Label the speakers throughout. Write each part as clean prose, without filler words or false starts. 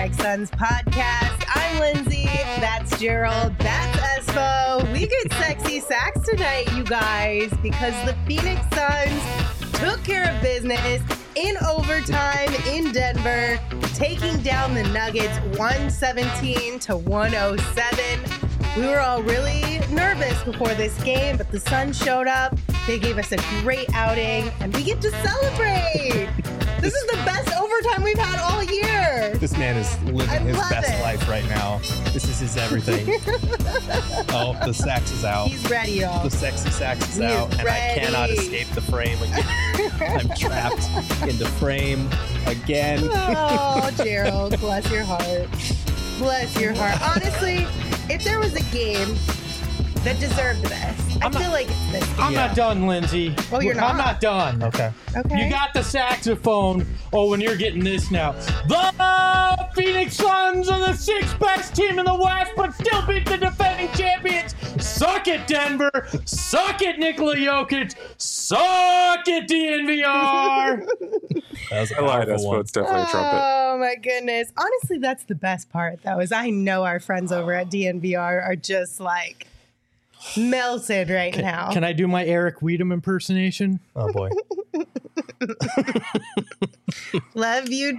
Speaker 1: Phoenix Suns podcast. I'm Lindsay. That's Gerald. That's Espo. We get sexy sacks tonight, you guys, because the Phoenix Suns took care of business in overtime in Denver, taking down the Nuggets 117 to 107. We were all really nervous before this game, but the Suns showed up. They gave us a great outing, and we get to celebrate. This is the best overtime we've had all year.
Speaker 2: This man is living his best life right now. This is his everything. Oh, the sax is out.
Speaker 1: He's ready, y'all.
Speaker 2: The sexy sax is out, and I cannot escape the frame again. I'm trapped in the frame again.
Speaker 1: Oh, Gerald, bless your heart. Bless your heart. Honestly, if there was a game that deserved this, I feel like it's this game.
Speaker 3: I'm not done, Lindsay.
Speaker 1: Oh, you're not?
Speaker 3: I'm not done.
Speaker 2: Okay.
Speaker 3: You got the saxophone. Oh, and you're getting this now. The Phoenix Suns are the sixth best team in the West, but still beat the defending champions. Suck it, Denver. Suck it, Nikola Jokic. Suck it, DNVR.
Speaker 2: That was a
Speaker 4: I lied.
Speaker 2: powerful one.
Speaker 4: It's definitely a trumpet.
Speaker 1: Oh, my goodness. Honestly, that's the best part, though, is I know our friends over at DNVR are just like melted right now.
Speaker 3: Can I do my Eric Weedham impersonation?
Speaker 2: Oh, boy.
Speaker 1: Love you,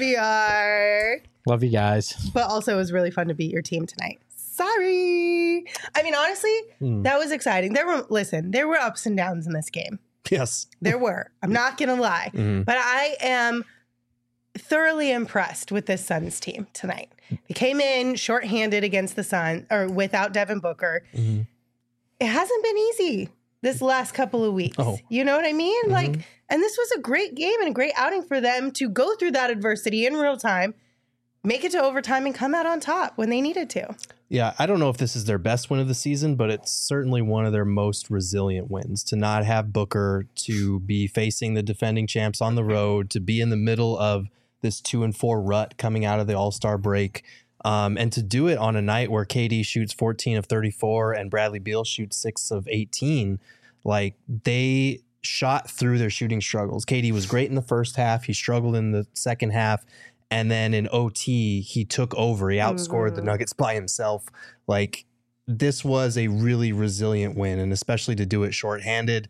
Speaker 1: DNVR.
Speaker 3: Love you guys.
Speaker 1: But also, it was really fun to beat your team tonight. Sorry. I mean, honestly, that was exciting. There were ups and downs in this game.
Speaker 2: Yes.
Speaker 1: There were. I'm not going to lie. But I am thoroughly impressed with this Suns team tonight. They came in shorthanded against the Suns, or without Devin Booker. It hasn't been easy this last couple of weeks.
Speaker 2: Oh.
Speaker 1: You know what I mean? And this was a great game and a great outing for them to go through that adversity in real time, make it to overtime, and come out on top when they needed to.
Speaker 2: Yeah, I don't know if this is their best win of the season, but it's certainly one of their most resilient wins. To not have Booker, to be facing the defending champs on the road, to be in the middle of this 2-4 rut coming out of the All-Star break, and to do it on a night where KD shoots 14 of 34 and Bradley Beal shoots 6 of 18. Like, they shot through their shooting struggles. KD was great in the first half. He struggled in the second half. And then in OT, he took over. He outscored the Nuggets by himself. Like, this was a really resilient win, and especially to do it shorthanded.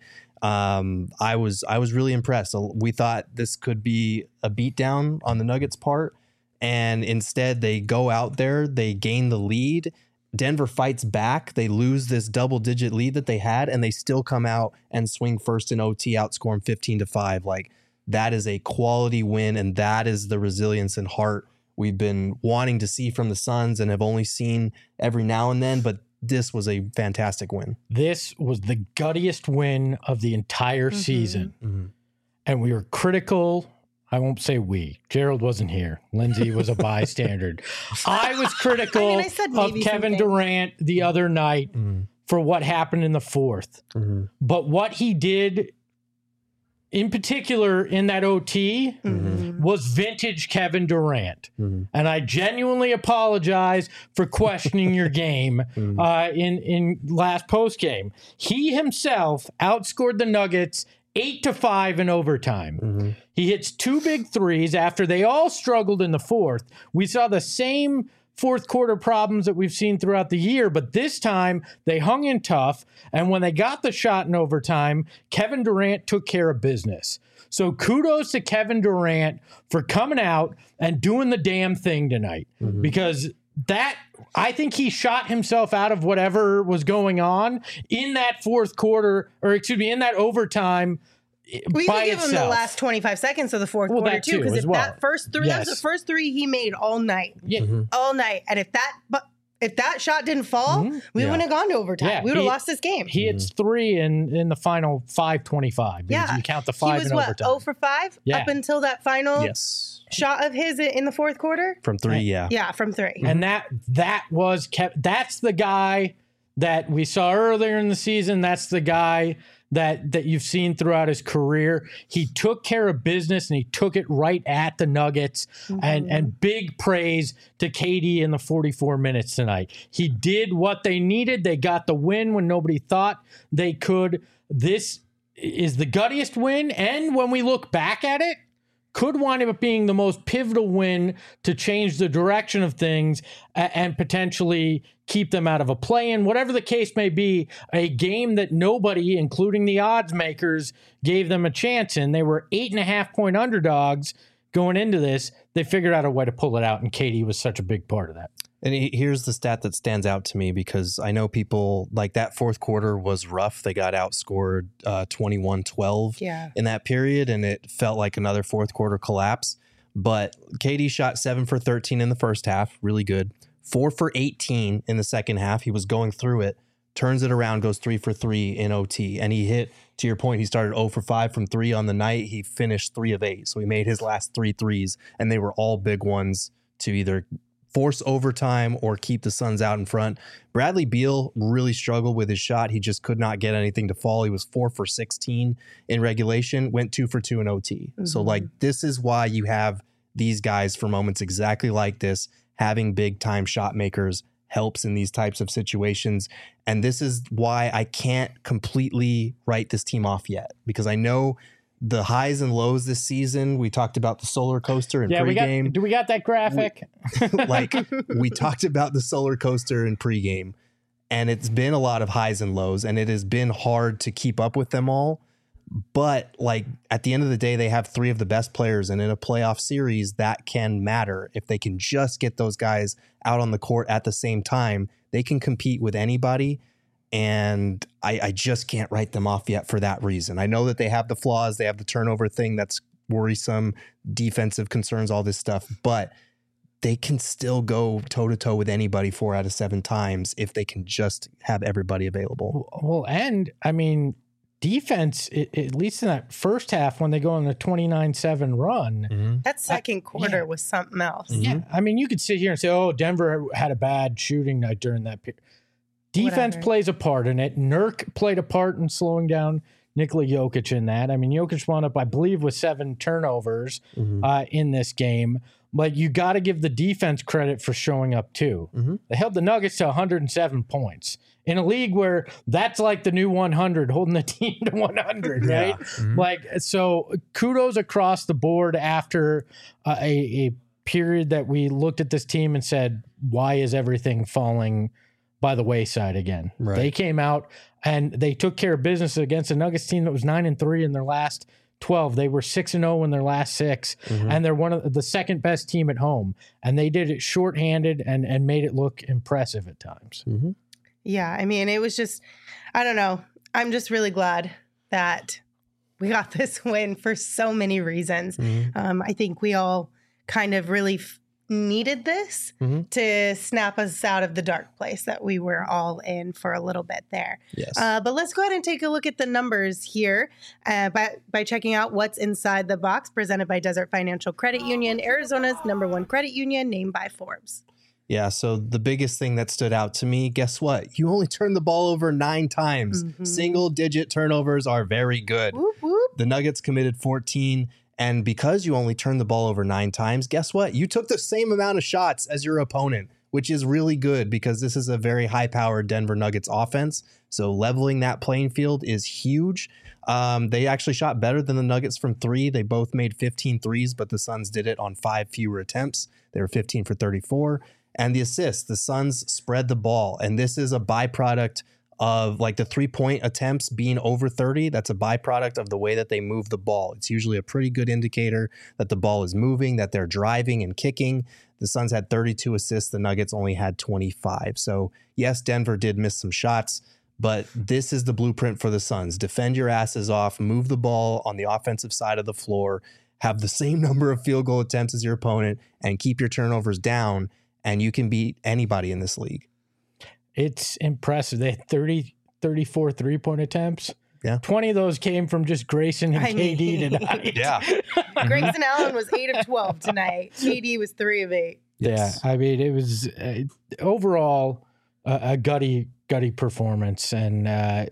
Speaker 2: I was really impressed. We thought this could be a beatdown on the Nuggets' part, and instead they go out there, they gain the lead. Denver fights back. They lose this double-digit lead that they had, and they still come out and swing first in OT, outscore them 15-5. Like, that is a quality win, and that is the resilience and heart we've been wanting to see from the Suns and have only seen every now and then, but this was a fantastic win.
Speaker 3: This was the guttiest win of the entire season. And we were critical. I won't say we. Gerald wasn't here. Lindsay was a bystander. I was critical of Kevin Durant the other night for what happened in the fourth. But what he did in particular in that OT was vintage Kevin Durant. And I genuinely apologize for questioning your game in last post game. He himself outscored the Nuggets 8-5 in overtime. He hits 2 big threes after they all struggled in the fourth. We saw the same fourth quarter problems that we've seen throughout the year, but this time they hung in tough, and when they got the shot in overtime, Kevin Durant took care of business. So kudos to Kevin Durant for coming out and doing the damn thing tonight, because that, I think he shot himself out of whatever was going on in that fourth quarter, or excuse me, in that overtime.
Speaker 1: We can give him the last 25 seconds of the fourth quarter too, because that first three, that was the first three he made all night, all night. And if that shot didn't fall, we wouldn't have gone to overtime. We would have lost this game.
Speaker 3: He hits 3 in the final 5:25.
Speaker 1: Yeah,
Speaker 3: you count the 5 in overtime.
Speaker 1: 0 for 5 up until that final shot of his in the fourth quarter
Speaker 2: from 3.
Speaker 1: Yeah, from 3.
Speaker 3: And that was that's the guy that we saw earlier in the season. That's the guy that you've seen throughout his career. He took care of business, and he took it right at the Nuggets. And big praise to KD in the 44 minutes tonight. He did what they needed. They got the win when nobody thought they could. This is the guttiest win, and when we look back at it, could wind up being the most pivotal win to change the direction of things and potentially keep them out of a play-in. Whatever the case may be, a game that nobody, including the odds makers, gave them a chance in. They were 8.5-point underdogs going into this. They figured out a way to pull it out, and KD was such a big part of that.
Speaker 2: And here's the stat that stands out to me, because I know people like that fourth quarter was rough. They got outscored 21-12 in that period, and it felt like another fourth quarter collapse. But KD shot 7 for 13 in the first half, really good. 4 for 18 in the second half. He was going through it, turns it around, goes 3 for 3 in OT. And he hit, to your point, he started 0 for 5 from 3 on the night. He finished 3 of 8. So he made his last 3 threes, and they were all big ones to either force overtime or keep the Suns out in front. Bradley Beal really struggled with his shot. He just could not get anything to fall. He was 4 for 16 in regulation, went 2 for 2 in OT. So like, this is why you have these guys for moments exactly like this. Having big time shot makers helps in these types of situations. And this is why I can't completely write this team off yet, because I know the highs and lows this season. We talked about the solar coaster in pregame.
Speaker 3: Do we got that graphic?
Speaker 2: We talked about the solar coaster in pregame, and it's been a lot of highs and lows, and it has been hard to keep up with them all. But like, at the end of the day, they have 3 of the best players, and in a playoff series that can matter. If they can just get those guys out on the court at the same time, they can compete with anybody. And I just can't write them off yet for that reason. I know that they have the flaws. They have the turnover thing that's worrisome, defensive concerns, all this stuff, but they can still go toe-to-toe with anybody 4 out of 7 times if they can just have everybody available.
Speaker 3: Well, and I mean, defense, at least in that first half, when they go on the 29-7 run.
Speaker 1: That second quarter was something else.
Speaker 3: Yeah. I mean, you could sit here and say, oh, Denver had a bad shooting night during that period. Defense plays a part in it. Nurk played a part in slowing down Nikola Jokic in that. I mean, Jokic wound up, I believe, with 7 turnovers in this game. But you got to give the defense credit for showing up, too. They held the Nuggets to 107 points in a league where that's like the new 100, holding the team to 100, right? Like, so kudos across the board after a period that we looked at this team and said, why is everything falling by the wayside again?
Speaker 2: Right.
Speaker 3: They came out and they took care of business against a Nuggets team that was 9-3 in their last 12. They were 6-0 in their last 6, and they're one of the second best team at home. And they did it shorthanded and made it look impressive at times.
Speaker 1: Yeah, I mean, it was just, I don't know. I'm just really glad that we got this win for so many reasons. I think we all kind of really needed this to snap us out of the dark place that we were all in for a little bit there.
Speaker 2: Yes.
Speaker 1: But let's go ahead and take a look at the numbers here by checking out what's inside the box, presented by Desert Financial Credit Union, Arizona's #1 credit union, named by Forbes.
Speaker 2: Yeah, so the biggest thing that stood out to me, guess what? You only turned the ball over 9 times. Single-digit turnovers are very good.
Speaker 1: Whoop, whoop.
Speaker 2: The Nuggets committed 14. And because you only turned the ball over 9 times, guess what? You took the same amount of shots as your opponent, which is really good because this is a very high-powered Denver Nuggets offense. So leveling that playing field is huge. They actually shot better than the Nuggets from 3. They both made 15 threes, but the Suns did it on 5 fewer attempts. They were 15 for 34. And the assists, the Suns spread the ball. And this is a byproduct of like the 3-point attempts being over 30. That's a byproduct of the way that they move the ball. It's usually a pretty good indicator that the ball is moving, that they're driving and kicking. The Suns had 32 assists. The Nuggets only had 25. So yes, Denver did miss some shots, but this is the blueprint for the Suns. Defend your asses off, move the ball on the offensive side of the floor, have the same number of field goal attempts as your opponent, and keep your turnovers down, and you can beat anybody in this league.
Speaker 3: It's impressive. They had 34 3-point attempts.
Speaker 2: Yeah.
Speaker 3: 20 of those came from just Grayson and KD tonight.
Speaker 2: Yeah.
Speaker 1: Grayson Allen was 8 of 12 tonight. KD was 3 of 8.
Speaker 2: Yes.
Speaker 3: Yeah. I mean, it was overall a gutty performance. And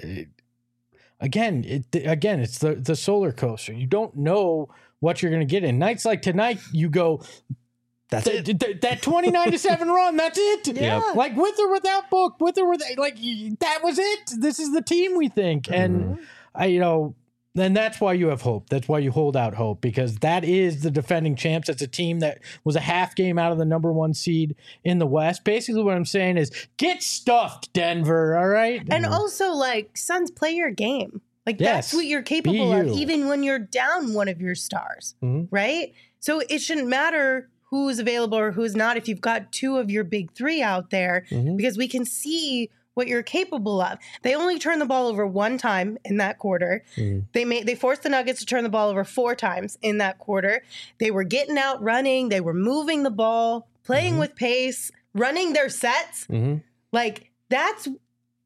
Speaker 3: again, it's the solar coaster. You don't know what you're going to get in. Nights like tonight, you go,
Speaker 2: That's it.
Speaker 3: That 29-7 run, that's it.
Speaker 1: Yeah.
Speaker 3: Like with or without Book, with or without, like that was it. This is the team we think. And then that's why you have hope. That's why you hold out hope, because that is the defending champs. It's a team that was a half game out of the number 1 seed in the West. Basically what I'm saying is get stuffed, Denver, all right?
Speaker 1: And also, like, Suns, play your game. Like,
Speaker 3: Yes.
Speaker 1: that's what you're capable of, even when you're down one of your stars, right? So it shouldn't matter who's available or who's not if you've got 2 of your big 3 out there, because we can see what you're capable of. They only turned the ball over 1 time in that quarter. They forced the Nuggets to turn the ball over 4 times in that quarter. They were getting out running. They were moving the ball, playing with pace, running their sets. Like, that's do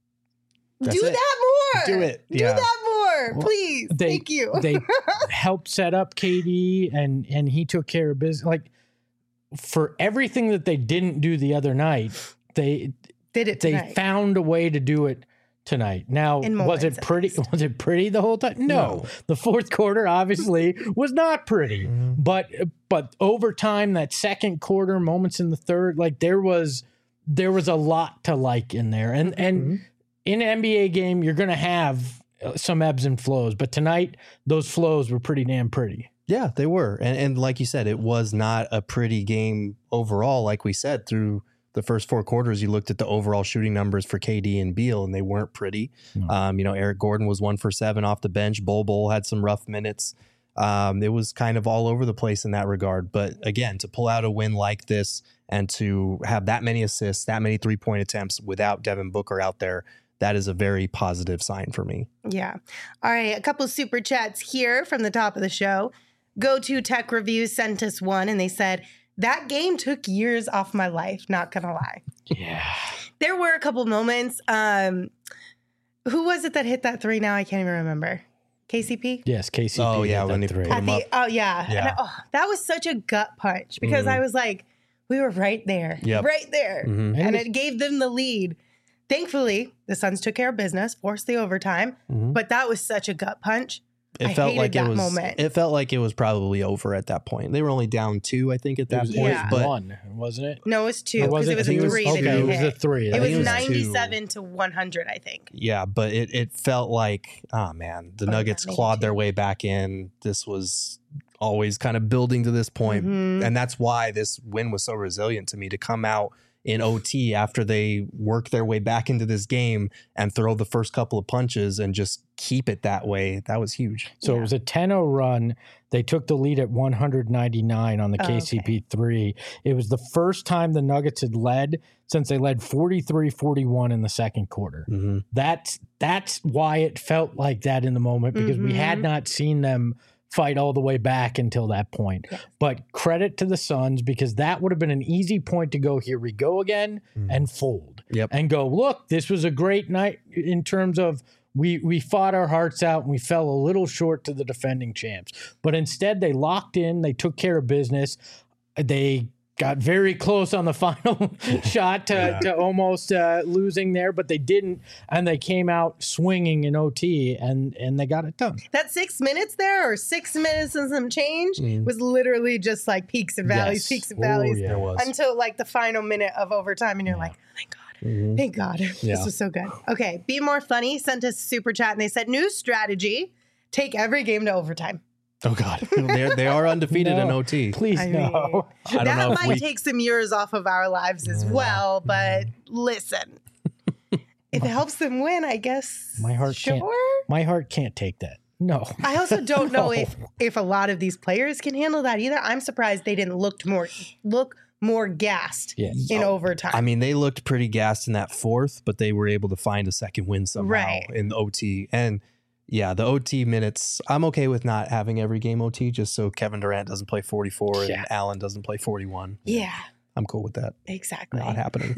Speaker 2: it.
Speaker 1: that more.
Speaker 2: Do it.
Speaker 1: Do that more, please. Thank you.
Speaker 3: They helped set up KD, and he took care of business. Like, for everything that they didn't do the other night, they found a way to do it tonight. Now, was it pretty? Was it pretty the whole time? No. The fourth quarter obviously was not pretty. But over time, that second quarter, moments in the third, like there was a lot to like in there. And in an NBA game, you're going to have some ebbs and flows. But tonight, those flows were pretty damn pretty.
Speaker 2: Yeah, they were. And like you said, it was not a pretty game overall. Like we said, through the first 4 quarters, you looked at the overall shooting numbers for KD and Beal, and they weren't pretty. Eric Gordon was 1 for 7 off the bench. Bol had some rough minutes. It was kind of all over the place in that regard. But again, to pull out a win like this and to have that many assists, that many 3-point attempts without Devin Booker out there, that is a very positive sign for me.
Speaker 1: Yeah. All right. A couple super chats here from the top of the show. Go to Tech Reviews sent us one, and they said, that game took years off my life, not gonna lie.
Speaker 3: Yeah.
Speaker 1: There were a couple moments. Who was it that hit that 3 now? I can't even remember. KCP?
Speaker 3: Yes, KCP.
Speaker 2: Oh, yeah, when they
Speaker 3: three.
Speaker 2: put him up.
Speaker 1: Oh, yeah.
Speaker 2: Yeah.
Speaker 1: And that was such a gut punch because I was like, we were right there.
Speaker 2: Yep.
Speaker 1: Right there.
Speaker 2: Mm-hmm.
Speaker 1: And it gave them the lead. Thankfully, the Suns took care of business, forced the overtime, but that was such a gut punch.
Speaker 2: It felt like it felt like it was probably over at that point. They were only down 2, I think, at that point.
Speaker 1: Yeah.
Speaker 2: But
Speaker 3: 1, wasn't it?
Speaker 1: No, it was 2 because it was a 3 that
Speaker 3: okay,
Speaker 1: he
Speaker 3: it was
Speaker 1: hit.
Speaker 3: a 3.
Speaker 1: It was
Speaker 2: was
Speaker 1: 97 to 100, I think.
Speaker 2: yeah, but it felt like, oh man, the Nuggets clawed their way back in. This was always kind of building to this point. And that's why this win was so resilient to me, to come out in OT after they work their way back into this game and throw the first couple of punches and just keep it that way. That was huge.
Speaker 3: So it was a 10-0 run. They took the lead at 199 on the KCP 3. It was the first time the Nuggets had led since they led 43-41 in the second quarter. That's why it felt like that in the moment, because we had not seen them fight all the way back until that point.
Speaker 1: Yes.
Speaker 3: But credit to the Suns, because that would have been an easy point to go, here we go again, and fold. And go, look, this was a great night in terms of we fought our hearts out and we fell a little short to the defending champs. But instead, they locked in, they took care of business. They got very close on the final shot to almost losing there, but they didn't, and they came out swinging in OT, and they got it done.
Speaker 1: That 6 minutes there, or 6 minutes and some change, was literally just like peaks and valleys, peaks and valleys,
Speaker 3: yeah, it was.
Speaker 1: until like the final minute of overtime, and you're like, thank God. Thank God. This was so good. Okay, Be More Funny sent us a super chat, and they said, new strategy, take every game to overtime.
Speaker 2: Oh God, they are undefeated in OT.
Speaker 3: Please no.
Speaker 2: I don't know
Speaker 1: That
Speaker 2: if
Speaker 1: might take some years off of our lives as well, but listen, if it helps them win, I guess.
Speaker 3: My heart can't take that. No.
Speaker 1: I also don't know if a lot of these players can handle that either. I'm surprised they didn't look more gassed in overtime.
Speaker 2: I mean, they looked pretty gassed in that fourth, but they were able to find a second win somehow in the OT. And yeah, the OT minutes, I'm okay with not having every game OT, just so Kevin Durant doesn't play 44 and Allen doesn't play 41.
Speaker 1: Yeah.
Speaker 2: I'm cool with that.
Speaker 1: Exactly.
Speaker 2: Not happening.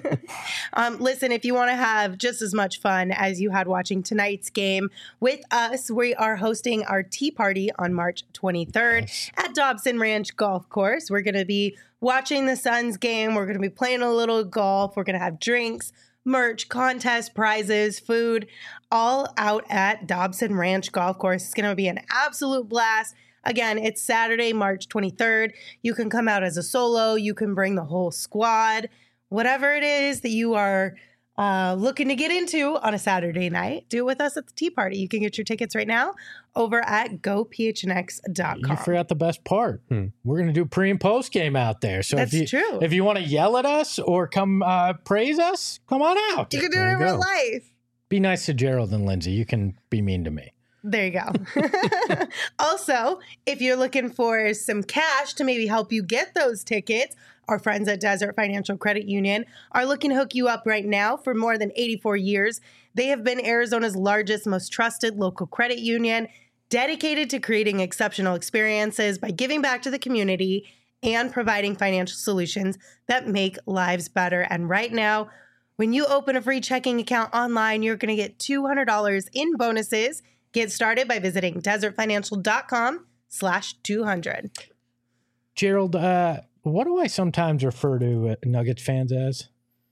Speaker 1: Listen, if you want to have just as much fun as you had watching tonight's game with us, we are hosting our tea party on March 23rd at Dobson Ranch Golf Course. We're going to be watching the Suns game. We're going to be playing a little golf. We're going to have drinks, merch, contest, prizes, food, all out at Dobson Ranch Golf Course. It's going to be an absolute blast. Again, it's Saturday, March 23rd. You can come out as a solo. You can bring the whole squad. Whatever it is that you are looking to get into on a Saturday night, do it with us at the tea party. You can get your tickets right now over at gophnx.com.
Speaker 3: You forgot the best part. We're going to do pre and post game out there. So
Speaker 1: That's true.
Speaker 3: If you want to yell at us or come praise us, come on out.
Speaker 1: You can do it in real life.
Speaker 3: Be nice to Gerald and Lindsay. You can be mean to me.
Speaker 1: There you go. Also, if you're looking for some cash to maybe help you get those tickets, our friends at Desert Financial Credit Union are looking to hook you up right now. For more than 84 years, they have been Arizona's largest, most trusted local credit union, dedicated to creating exceptional experiences by giving back to the community and providing financial solutions that make lives better. And right now, when you open a free checking account online, you're going to get $200 in bonuses. Get started by visiting desertfinancial.com/200.
Speaker 3: Gerald, what do I sometimes refer to Nuggets fans as?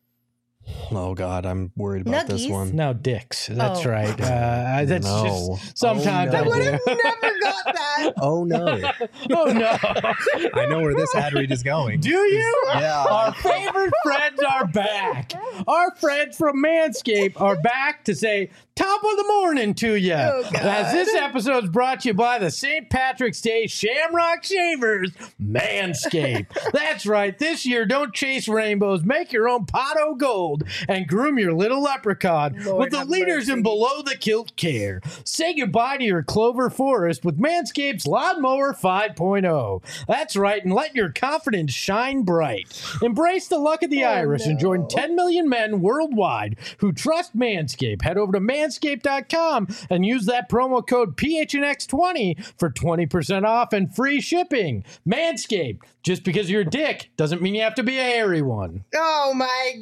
Speaker 2: Oh, God, I'm worried about this
Speaker 1: Nuggies?
Speaker 2: one.
Speaker 3: No, dicks. That's right. That's
Speaker 2: No.
Speaker 3: just sometimes
Speaker 2: Oh,
Speaker 1: I
Speaker 2: no.
Speaker 3: I
Speaker 1: would
Speaker 3: do.
Speaker 1: have never got that.
Speaker 2: Oh, no.
Speaker 3: Oh, no.
Speaker 2: I know where this ad read is going.
Speaker 3: Do you?
Speaker 2: Yeah.
Speaker 3: Our favorite friends are back. Our friends from Manscaped are back to say top of the morning to you.
Speaker 1: Oh, God.
Speaker 3: As this episode is brought to you by the St. Patrick's Day Shamrock Shavers, Manscaped. That's right. This year, don't chase rainbows. Make your own pot o' gold and groom your little leprechaun
Speaker 1: Lord
Speaker 3: with the
Speaker 1: have
Speaker 3: leaders in
Speaker 1: mercy.
Speaker 3: below the kilt care. Say goodbye to your clover forest with Manscaped's Lawnmower 5.0. That's right, and let your confidence shine bright. Embrace the luck of the Irish and join 10 million men worldwide who trust Manscaped. Head over to manscaped.com and use that promo code PHNX20 for 20% off and free shipping. Manscaped. Just because you're a dick doesn't mean you have to be a hairy one.
Speaker 1: Oh, my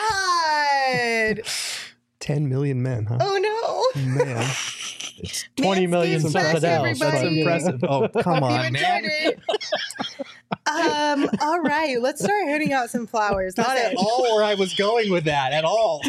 Speaker 1: God.
Speaker 2: 10 million men, huh?
Speaker 1: Oh, no.
Speaker 2: Man.
Speaker 3: 20 million
Speaker 1: Manscaped's
Speaker 3: something
Speaker 1: back,
Speaker 3: else.
Speaker 2: That's
Speaker 1: everybody.
Speaker 2: impressive. Oh, come
Speaker 1: You
Speaker 2: on,
Speaker 1: enjoyed
Speaker 2: man.
Speaker 1: it. All right, let's start handing out some flowers.
Speaker 2: Not
Speaker 1: That's
Speaker 2: at
Speaker 1: it.
Speaker 2: all where I was going with that, at all.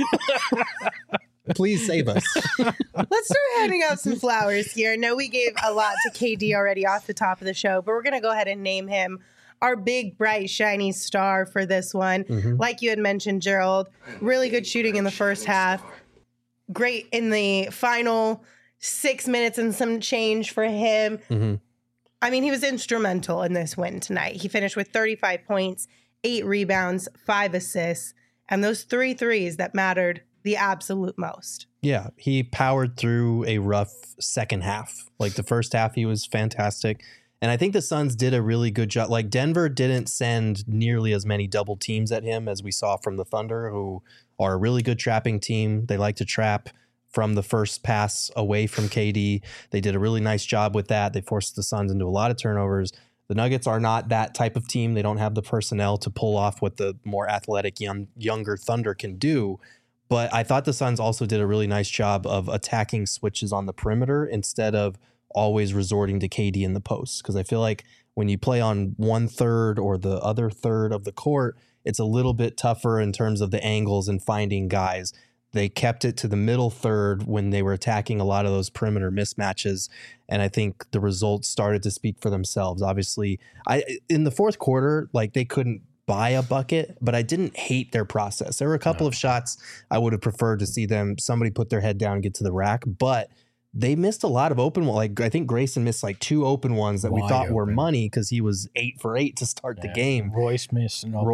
Speaker 2: Please save us.
Speaker 1: Let's start handing out some flowers here. I know we gave a lot to KD already off the top of the show, but we're going to go ahead and name him our big, bright, shiny star for this one. Like you had mentioned, Gerald, really good shooting in the first half. Great in the final 6 minutes and some change for him. I mean, he was instrumental in this win tonight. He finished with 35 points, 8 rebounds, 5 assists, and those 3 threes that mattered the absolute most.
Speaker 2: Yeah, he powered through a rough second half. Like the first half, he was fantastic. And I think the Suns did a really good job. Like Denver didn't send nearly as many double teams at him as we saw from the Thunder, who are a really good trapping team. They like to trap from the first pass away from KD. They did a really nice job with that. They forced the Suns into a lot of turnovers. The Nuggets are not that type of team. They don't have the personnel to pull off what the more athletic younger Thunder can do. But I thought the Suns also did a really nice job of attacking switches on the perimeter instead of always resorting to KD in the post. Because I feel like when you play on 1/3 or the other third of the court, it's a little bit tougher in terms of the angles and finding guys. They kept it to the middle third when they were attacking a lot of those perimeter mismatches. And I think the results started to speak for themselves. Obviously, in the fourth quarter, like they couldn't buy a bucket, but I didn't hate their process. There were a couple of shots I would have preferred to see somebody put their head down and get to the rack, but they missed a lot of open ones. Like I think Grayson missed like 2 open ones that we
Speaker 3: Wide
Speaker 2: thought were
Speaker 3: open.
Speaker 2: money because he was 8 for 8 to start the game.
Speaker 3: Royce missed an open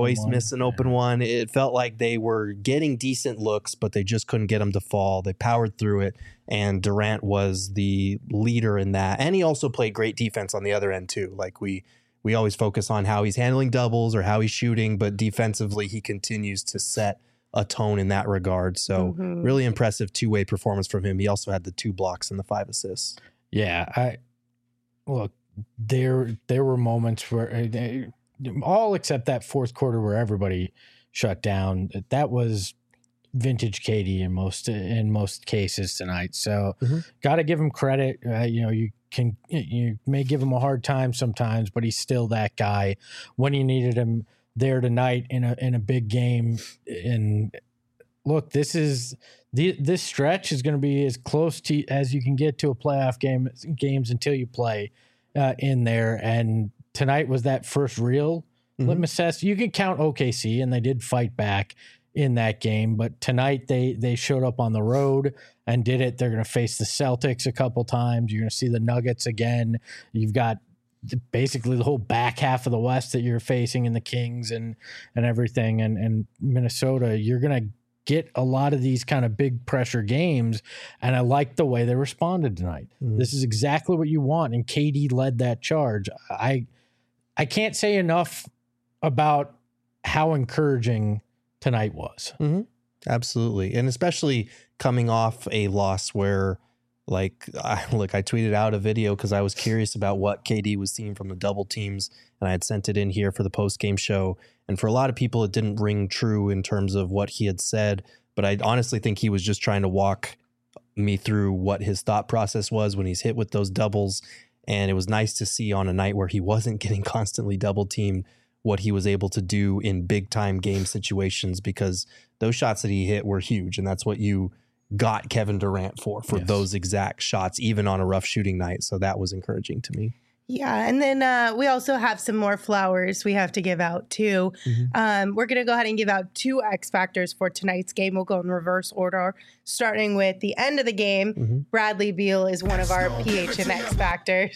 Speaker 2: one. It felt like they were getting decent looks, but they just couldn't get them to fall. They powered through it, and Durant was the leader in that. And he also played great defense on the other end too. Like we always focus on how he's handling doubles or how he's shooting, but defensively he continues to set a tone in that regard. So really impressive two-way performance from him. He also had the 2 blocks and the 5 assists.
Speaker 3: Yeah, look, there were moments where all except that fourth quarter where everybody shut down. That was vintage KD in most cases tonight. So got to give him credit. You may give him a hard time sometimes, but he's still that guy when you needed him there tonight in a big game. And look, this stretch is going to be as close to as you can get to a playoff games until you play in there. And tonight was that first real litmus test. You can count OKC, and they did fight back in that game. But tonight they showed up on the road and did it. They're going to face the Celtics a couple times. You're going to see the Nuggets again. You've got basically the whole back half of the West that you're facing in the Kings and everything. And Minnesota, you're going to get a lot of these kind of big pressure games. And I like the way they responded tonight. This is exactly what you want. And KD led that charge. I can't say enough about how encouraging tonight was.
Speaker 2: Absolutely. And especially coming off a loss where, like, I tweeted out a video because I was curious about what KD was seeing from the double teams, and I had sent it in here for the post-game show. And for a lot of people, it didn't ring true in terms of what he had said, but I honestly think he was just trying to walk me through what his thought process was when he's hit with those doubles. And it was nice to see on a night where he wasn't getting constantly double teamed what he was able to do in big time game situations, because those shots that he hit were huge. And that's what you got Kevin Durant for those exact shots, even on a rough shooting night. So that was encouraging to me.
Speaker 1: Yeah. And then we also have some more flowers we have to give out too. We're going to go ahead and give out 2 X factors for tonight's game. We'll go in reverse order, starting with the end of the game. Bradley Beal is one of our PH and X factors.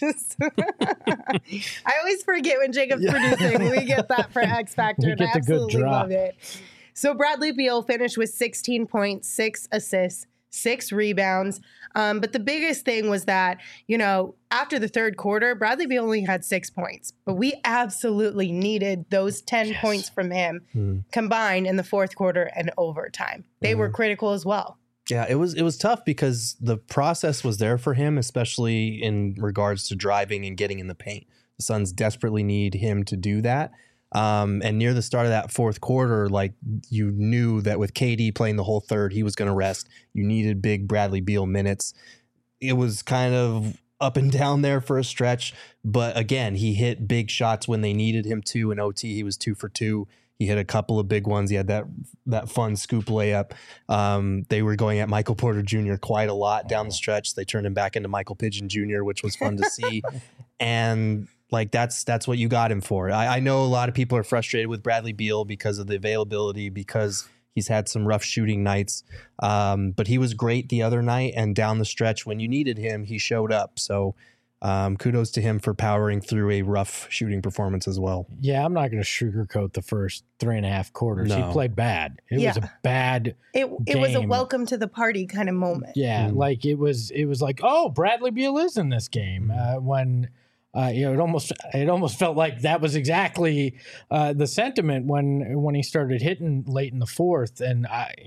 Speaker 1: I always forget when Jacob's producing. We get that for X factor.
Speaker 3: We get the good drop.
Speaker 1: Love it. So Bradley Beal finished with 16 points, 6 assists, 6 rebounds. But the biggest thing was that, after the third quarter, Bradley Beal only had 6 points. But we absolutely needed those 10 points from him combined in the fourth quarter and overtime. They were critical as well.
Speaker 2: Yeah, it was tough because the process was there for him, especially in regards to driving and getting in the paint. The Suns desperately need him to do that. And near the start of that fourth quarter, like, you knew that with KD playing the whole third, he was going to rest. You needed big Bradley Beal minutes. It was kind of up and down there for a stretch. But again, he hit big shots when they needed him to. In OT, he was 2 for 2. He hit a couple of big ones. He had that fun scoop layup. They were going at Michael Porter Jr. quite a lot down the stretch. They turned him back into Michael Pigeon Jr., which was fun to see. And like, that's what you got him for. I know a lot of people are frustrated with Bradley Beal because of the availability, because he's had some rough shooting nights. But he was great the other night, and down the stretch when you needed him, he showed up. So kudos to him for powering through a rough shooting performance as well.
Speaker 3: Yeah, I'm not going to sugarcoat the first 3.5 quarters.
Speaker 2: No.
Speaker 3: He played bad. It was a bad
Speaker 1: It was a welcome to the party kind of moment.
Speaker 3: Yeah, like it was like, oh, Bradley Beal is in this game. When it almost felt like that was exactly the sentiment when he started hitting late in the fourth. And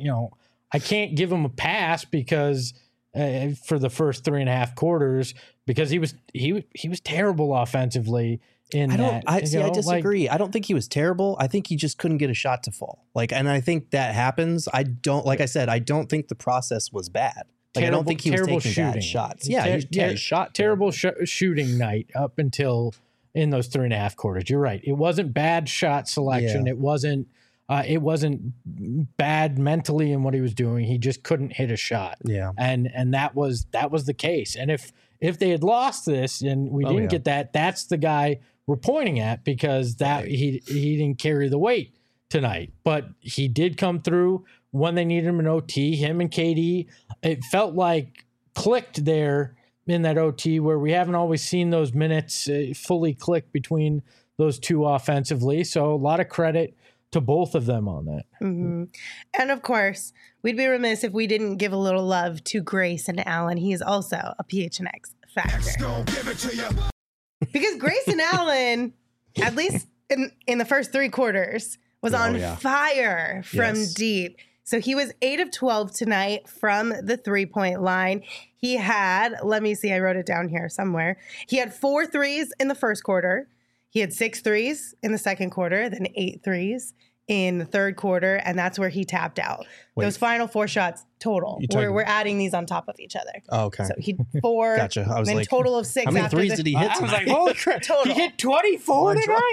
Speaker 3: I can't give him a pass because for the first 3.5 quarters, because he was terrible offensively.
Speaker 2: I disagree. I don't think he was terrible. I think he just couldn't get a shot to fall. And I think that happens. I don't think the process was bad. I don't think he was taking bad shots. Yeah, he shot
Speaker 3: terrible shooting night up until in those 3.5 quarters. You're right. It wasn't bad shot selection. Yeah. It wasn't bad mentally in what he was doing. He just couldn't hit a shot. Yeah, and that was the case. And if they had lost this and we didn't get that, that's the guy we're pointing at, because he didn't carry the weight tonight. But he did come through when they needed him in OT. Him and KD, it felt like clicked there in that OT, where we haven't always seen those minutes fully click between those two offensively. So a lot of credit to both of them on that.
Speaker 1: Mm-hmm. And of course, we'd be remiss if we didn't give a little love to Grayson Allen. He is also a PHNX factor. Because Grayson Allen, at least in the first 3 quarters, was on fire from deep. So he was 8 of 12 tonight from the 3-point line. He had, let me see, I wrote it down here somewhere. He had 4 threes in the first quarter. He had 6 threes in the second quarter, then 8 threes in the third quarter, and that's where he tapped out. Those final 4 shots total. We're adding these on top of each other.
Speaker 2: Oh, okay.
Speaker 1: So he 4,
Speaker 2: gotcha. I was
Speaker 1: then
Speaker 2: like,
Speaker 1: total of 6.
Speaker 2: how many threes did he hit?
Speaker 3: I was like, holy crap.
Speaker 1: Total.
Speaker 3: He hit 24 tonight?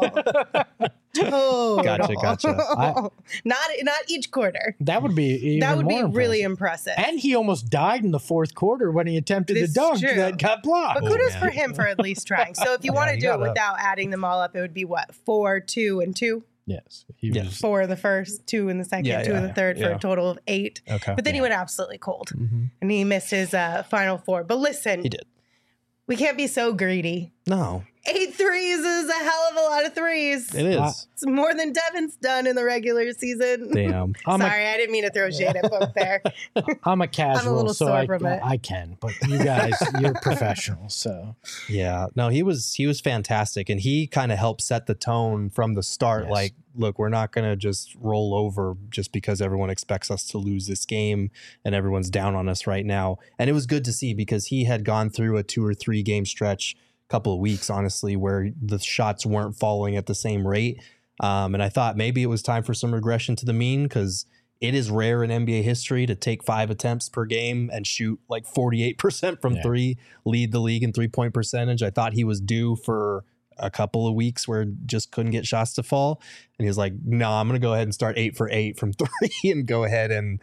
Speaker 1: Total.
Speaker 2: Gotcha.
Speaker 1: Not each quarter.
Speaker 3: That would be
Speaker 1: really impressive.
Speaker 3: And he almost died in the fourth quarter when he attempted the dunk that got blocked.
Speaker 1: But kudos for him for at least trying. So if you want to do it without adding them all up, it would be what, 4, 2, and 2?
Speaker 3: Yes. He was,
Speaker 1: 4 in the first, 2 in the second, 2 in the third, for a total of 8.
Speaker 2: Okay.
Speaker 1: But then he went absolutely cold, and he missed his final 4. But listen,
Speaker 2: He did.
Speaker 1: we can't be so greedy.
Speaker 2: No,
Speaker 1: 8 threes is a hell of a lot of threes.
Speaker 2: it is.
Speaker 1: It's more than Devin's done in the regular season.
Speaker 2: Damn.
Speaker 1: Sorry, I didn't mean to throw shade at both there.
Speaker 3: I'm a casual,
Speaker 1: little
Speaker 3: so
Speaker 1: sore from it.
Speaker 3: I can. But you guys, you're professionals, so.
Speaker 2: Yeah. No, he was fantastic, and he kind of helped set the tone from the start.
Speaker 3: Yes.
Speaker 2: Like, look, we're not going to just roll over just because everyone expects us to lose this game and everyone's down on us right now. And it was good to see because he had gone through a 2 or 3 game stretch, couple of weeks, honestly, where the shots weren't falling at the same rate. And I thought maybe it was time for some regression to the mean, because it is rare in NBA history to take 5 attempts per game and shoot like 48% from 3, lead the league in 3-point percentage. I thought he was due for a couple of weeks where just couldn't get shots to fall. And he was like, no, I'm going to go ahead and start 8 for 8 from 3 and go ahead and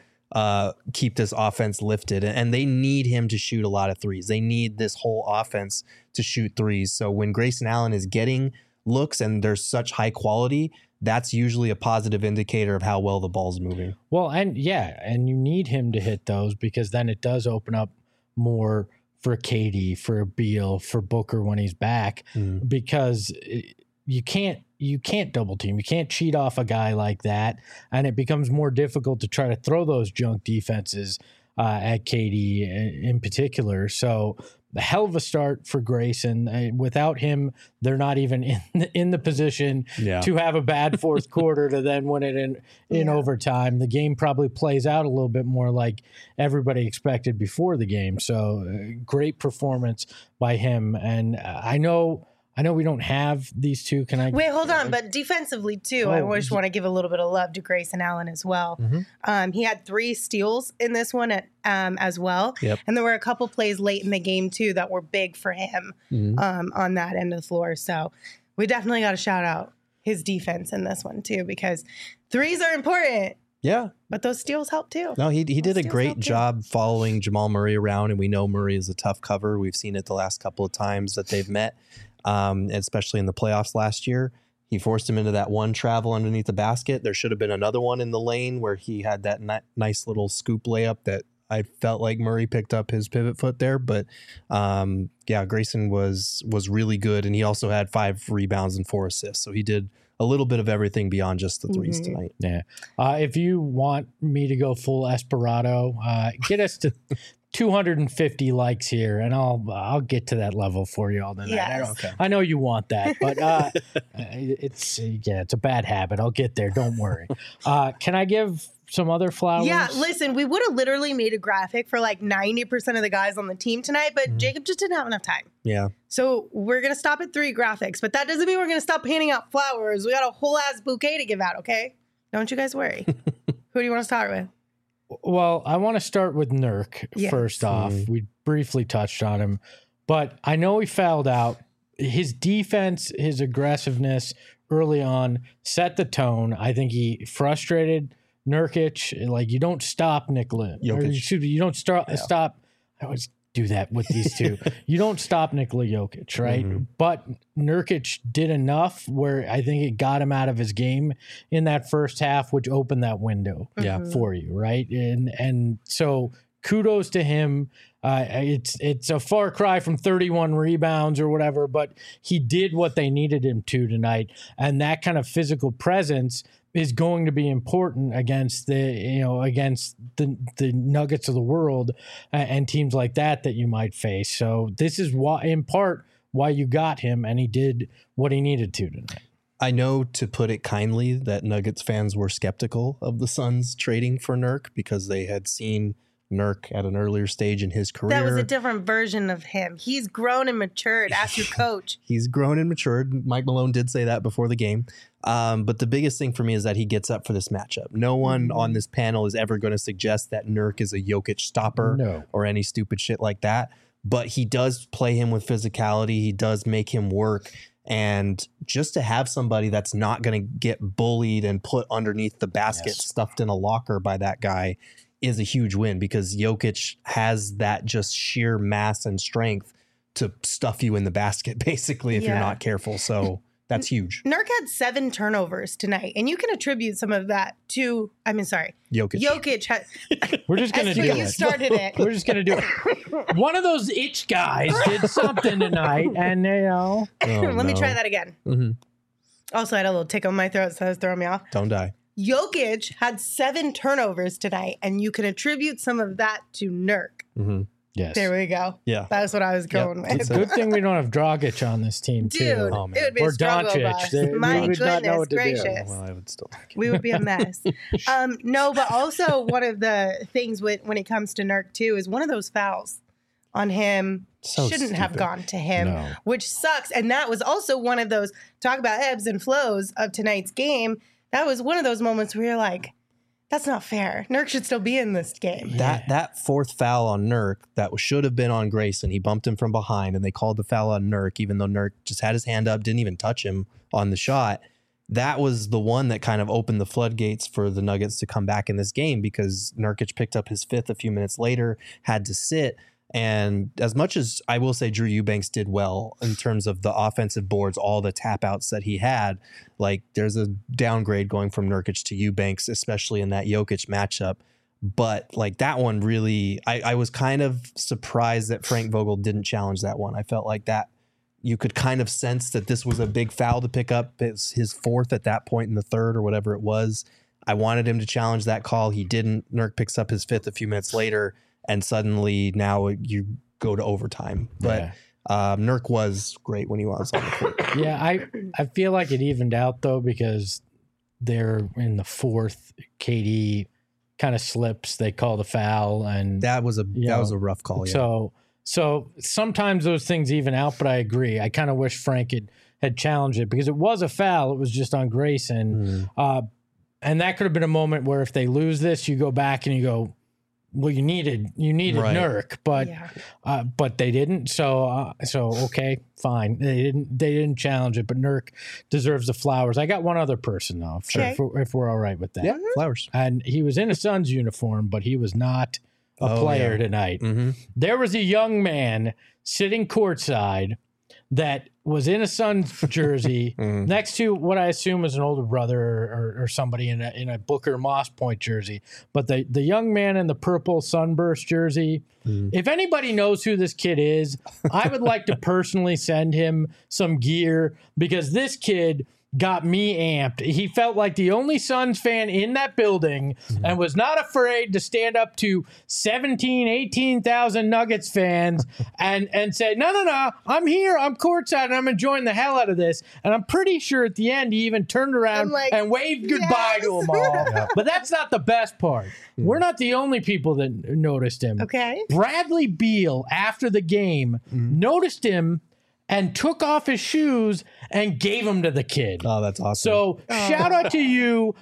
Speaker 2: keep this offense lifted. And they need him to shoot a lot of threes. They need this whole offense to shoot threes. So when Grayson Allen is getting looks and there's such high quality, that's usually a positive indicator of how well the ball's moving.
Speaker 3: Well, and you need him to hit those, because then it does open up more for KD, for Beal, for Booker when he's back, because you can't double team. You can't cheat off a guy like that. And it becomes more difficult to try to throw those junk defenses at KD in particular. So a hell of a start for Grayson. Without him, they're not even in the position to have a bad fourth quarter to then win it in overtime. The game probably plays out a little bit more like everybody expected before the game. So great performance by him. And I know we don't have these two. Can I
Speaker 1: wait? Hold on, but defensively too, I just want to give a little bit of love to Grayson Allen as well. He had 3 steals in this one as well, and there were a couple plays late in the game too that were big for him on that end of the floor. So we definitely got to shout out his defense in this one too, because threes are important.
Speaker 2: Yeah.
Speaker 1: But those steals help too.
Speaker 2: No, he did a great job following Jamal Murray around, and we know Murray is a tough cover. We've seen it the last couple of times that they've met. Especially in the playoffs last year. He forced him into that one travel underneath the basket. There should have been another one in the lane where he had that nice little scoop layup that I felt like Murray picked up his pivot foot there. But Grayson was really good, and he also had 5 rebounds and 4 assists. So he did a little bit of everything beyond just the threes tonight.
Speaker 3: Yeah. If you want me to go full Esperado, get us to 250 likes here, and I'll get to that level for you all tonight.
Speaker 1: Yes.
Speaker 3: I know you want that, but it's a bad habit. I'll get there. Don't worry. Can I give some other flowers?
Speaker 1: Yeah, listen, we would have literally made a graphic for like 90% of the guys on the team tonight, but Jacob just didn't have enough time.
Speaker 2: Yeah.
Speaker 1: So we're going to stop at 3 graphics, but that doesn't mean we're going to stop handing out flowers. We got a whole ass bouquet to give out, okay? Don't you guys worry. Who do you want to start with?
Speaker 3: Well, I want to start with Nurk first off. We briefly touched on him, but I know he fouled out. His defense, his aggressiveness early on set the tone. I think he frustrated Nurkic. Like, you don't stop Nikola. You don't stop. I always do that with these two. You don't stop Nikola Jokic, right? But Nurkic did enough where I think it got him out of his game in that first half, which opened that window for you, right? And so kudos to him. It's a far cry from 31 rebounds or whatever, but he did what they needed him to tonight. And that kind of physical presence is going to be important against the Nuggets of the world and teams like that you might face. So this is why, in part, why you got him, and he did what he needed to tonight.
Speaker 2: I know, to put it kindly, that Nuggets fans were skeptical of the Suns trading for Nurk because they had seen Nurk at an earlier stage in his career.
Speaker 1: That was a different version of him. He's grown and matured. Ask your coach.
Speaker 2: He's grown and matured. Mike Malone did say that before the game. But the biggest thing for me is that he gets up for this matchup. No one on this panel is ever going to suggest that Nurk is a Jokic stopper or any stupid shit like that. But he does play him with physicality. He does make him work. And just to have somebody that's not going to get bullied and put underneath the basket, stuffed in a locker by that guy, is a huge win, because Jokic has that just sheer mass and strength to stuff you in the basket, basically, if you're not careful. So That's huge.
Speaker 1: Nurk had 7 turnovers tonight, and you can attribute some of that to,
Speaker 2: Jokic.
Speaker 1: Jokic had,
Speaker 3: We're just going to do
Speaker 1: you
Speaker 3: it.
Speaker 1: started it.
Speaker 3: We're just going to do it. One of those itch guys did something tonight, and
Speaker 2: Oh,
Speaker 1: Let me
Speaker 2: no.
Speaker 1: try that again.
Speaker 2: Mm-hmm.
Speaker 1: Also, I had a little tickle in my throat, so that was throwing me off.
Speaker 2: Don't die.
Speaker 1: Jokic had 7 turnovers tonight, and you can attribute some of that to Nurk.
Speaker 2: Mm-hmm.
Speaker 3: yes.
Speaker 1: There we go.
Speaker 2: Yeah.
Speaker 1: That's what I was going with.
Speaker 3: It's a good thing we don't have Dragic on this team, too.
Speaker 1: Dude,
Speaker 2: Oh, man.
Speaker 1: it would be
Speaker 3: Or
Speaker 1: a struggle
Speaker 3: Doncic.
Speaker 1: bus.
Speaker 3: They-
Speaker 1: My
Speaker 3: we would not know
Speaker 1: goodness
Speaker 3: what to do.
Speaker 1: gracious.
Speaker 2: Well, I would still.
Speaker 1: We would be a mess. No, but also one of the things when it comes to Nurk, too, is one of those fouls on him
Speaker 2: So
Speaker 1: shouldn't have
Speaker 2: stupid.
Speaker 1: gone to him,
Speaker 3: No.
Speaker 1: which sucks. And that was also one of those, talk about ebbs and flows of tonight's game. That was one of those moments where you're like, that's not fair. Nurk should still be in this game.
Speaker 2: That fourth foul on Nurk that should have been on Grayson. He bumped him from behind, and they called the foul on Nurk, even though Nurk just had his hand up, didn't even touch him on the shot. That was the one that kind of opened the floodgates for the Nuggets to come back in this game, because Nurkic picked up his 5th a few minutes later, had to sit. And as much as I will say Drew Eubanks did well in terms of the offensive boards, all the tap outs that he had, like there's a downgrade going from Nurkic to Eubanks, especially in that Jokic matchup. But like that one really, I was kind of surprised that Frank Vogel didn't challenge that one. I felt like that you could kind of sense that this was a big foul to pick up. It's his 4th at that point in the 3rd or whatever it was. I wanted him to challenge that call. He didn't. Nurk picks up his 5th a few minutes later. And suddenly now you go to overtime. But Nurk was great when he was on the court.
Speaker 3: Yeah, I feel like it evened out, though, because they're in the 4th. KD kind of slips. They call the foul. And
Speaker 2: That was a rough call. Yeah.
Speaker 3: So sometimes those things even out, but I agree. I kind of wish Frank had challenged it, because it was a foul. It was just on Grayson. And that could have been a moment where if they lose this, you go back and you go, well, you needed
Speaker 2: Right.
Speaker 3: Nurk, but they didn't. So okay, fine. They didn't challenge it, but Nurk deserves the flowers. I got one other person though, if we're all right with that.
Speaker 2: Yeah, flowers.
Speaker 3: And he was in a Suns uniform, but he was not a player tonight.
Speaker 2: Mm-hmm.
Speaker 3: There was a young man sitting courtside that was in a Suns jersey next to what I assume is an older brother or somebody in a Booker Moss Point jersey. But the young man in the purple Sunburst jersey, if anybody knows who this kid is, I would like to personally send him some gear, because this kid got me amped. He felt like the only Suns fan in that building and was not afraid to stand up to 18,000 Nuggets fans and say, no, I'm here, I'm courtside, and I'm enjoying the hell out of this. And I'm pretty sure at the end he even turned around and waved goodbye to them all. But that's not the best part. We're not the only people that noticed him.
Speaker 1: Okay.
Speaker 3: Bradley Beal, after the game, noticed him and took off his shoes and gave them to the kid.
Speaker 2: Oh, that's awesome.
Speaker 3: So shout out to you.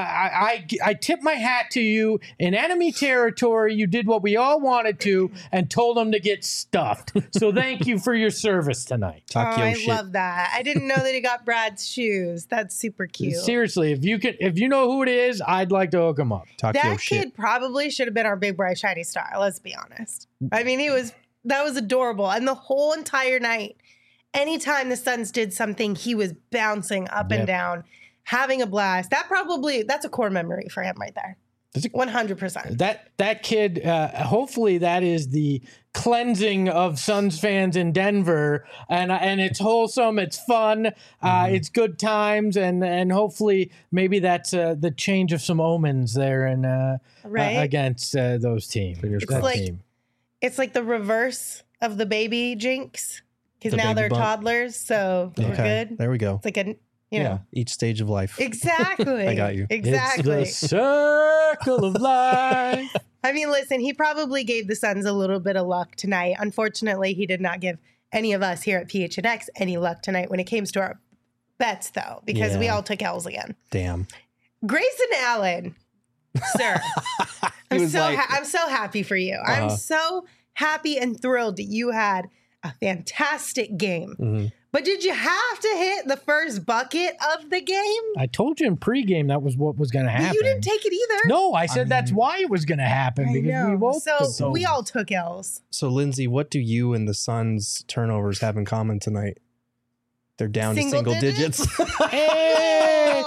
Speaker 3: I tip my hat to you. In enemy territory, you did what we all wanted to and told them to get stuffed. So thank you for your service tonight.
Speaker 2: Talk your
Speaker 1: I
Speaker 2: shit.
Speaker 1: love that. I didn't know that he got Brad's shoes. That's super cute.
Speaker 3: Seriously, if you know who it is, I'd like to hook him up.
Speaker 2: Talk your
Speaker 1: That
Speaker 2: shit.
Speaker 1: kid probably should have been our big bright shiny star. Let's be honest. I mean, that was adorable, and the whole entire night, anytime the Suns did something, he was bouncing up and down, having a blast. That's a core memory for him right there. 100%.
Speaker 3: That kid, hopefully that is the cleansing of Suns fans in Denver, and it's wholesome, it's fun, it's good times, and hopefully maybe that's the change of some omens there and against those teams.
Speaker 1: It's like the reverse of the baby jinx, because
Speaker 2: The
Speaker 1: now
Speaker 2: baby
Speaker 1: they're
Speaker 2: bump.
Speaker 1: toddlers, so we're good.
Speaker 2: There we go.
Speaker 1: It's like a you know.
Speaker 2: Each stage of life.
Speaker 1: Exactly.
Speaker 2: I got you.
Speaker 1: Exactly.
Speaker 3: It's the circle of life.
Speaker 1: I mean, listen, he probably gave the Suns a little bit of luck tonight. Unfortunately, he did not give any of us here at PHNX any luck tonight when it came to our bets, though, because we all took L's again.
Speaker 2: Damn.
Speaker 1: Grayson Allen, sir, I'm so
Speaker 2: like-
Speaker 1: I'm so happy for you. I'm so happy and thrilled that you had a fantastic game. But did you have to hit the first bucket of the game?
Speaker 3: I told you in pregame that was what was going to happen.
Speaker 1: But you didn't take it either.
Speaker 3: No, I said that's why it was going to happen,
Speaker 1: I
Speaker 3: because we
Speaker 1: know.
Speaker 3: both
Speaker 1: So we all took L's.
Speaker 2: So, Lindsay, what do you and the Suns' turnovers have in common tonight? They're down to single digits.
Speaker 3: Hey!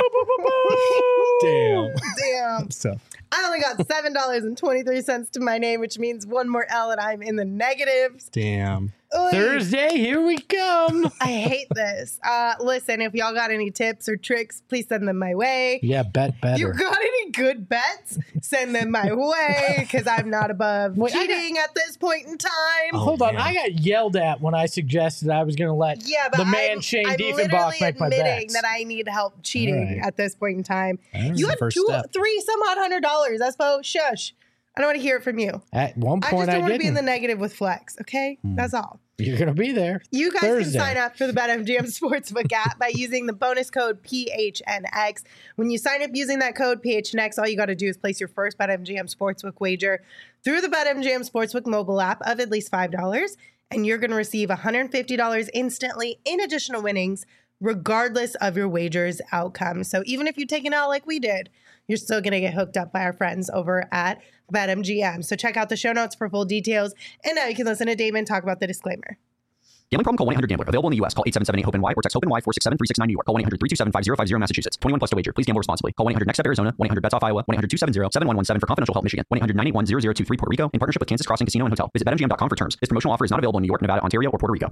Speaker 2: Damn.
Speaker 1: Damn.
Speaker 2: So
Speaker 1: I only got $7.23 to my name, which means one more L and I'm in the negatives.
Speaker 2: damn.
Speaker 1: Oy.
Speaker 3: Thursday, here we come.
Speaker 1: I hate this. Listen, if y'all got any tips or tricks, please send them my way.
Speaker 3: Yeah, bet
Speaker 1: If you
Speaker 3: better.
Speaker 1: got any good bets, send them my way because I'm not above
Speaker 3: Wait, I
Speaker 1: cheating at this point in time.
Speaker 2: Oh,
Speaker 3: Hold on,
Speaker 2: man.
Speaker 3: I got yelled at when I suggested I was going to let
Speaker 1: Yeah, but
Speaker 3: the man
Speaker 1: I'm
Speaker 3: Shane
Speaker 1: literally
Speaker 3: Diefenbach make my
Speaker 1: admitting
Speaker 3: bets.
Speaker 1: that I need help cheating
Speaker 3: All right.
Speaker 1: at this point in time.
Speaker 3: All right.
Speaker 1: You had
Speaker 2: First
Speaker 1: 2,
Speaker 2: step.
Speaker 1: 3 some odd $100. Espo, shush. I don't want to hear it from you.
Speaker 3: At one
Speaker 1: I
Speaker 3: point,
Speaker 1: just don't want to be in
Speaker 3: didn't.
Speaker 1: the negative with Flex, okay? That's all.
Speaker 3: You're going to be there.
Speaker 1: You guys
Speaker 3: Thursday.
Speaker 1: can sign up for the BetMGM Sportsbook app by using the bonus code PHNX. When you sign up using that code PHNX, all you got to do is place your first BetMGM Sportsbook wager through the BetMGM Sportsbook mobile app of at least $5, and you're going to receive $150 instantly in additional winnings, regardless of your wager's outcome. So even if you take an L like we did, you're still going to get hooked up by our friends over at BetMGM. So check out the show notes for full details. And now you can listen to Damon talk about the disclaimer.
Speaker 4: Gambling problem? Call 1-800-GAMBLER. Available in the U.S. Call 877-8-HOPE-NY or text HOPE-NY 467-369 New York. Call 1-800-327-5050 Massachusetts. 21 plus to wager. Please gamble responsibly. Call 1-800-NEXT-STEP Arizona. 1-800-BETS-OFF Iowa. 1-800-270-7117 for confidential help Michigan. 1-800-981-0023 Puerto Rico in partnership with Kansas Crossing Casino and Hotel. Visit BetMGM.com for terms. This promotional offer is not available in New York, Nevada, Ontario, or Puerto Rico.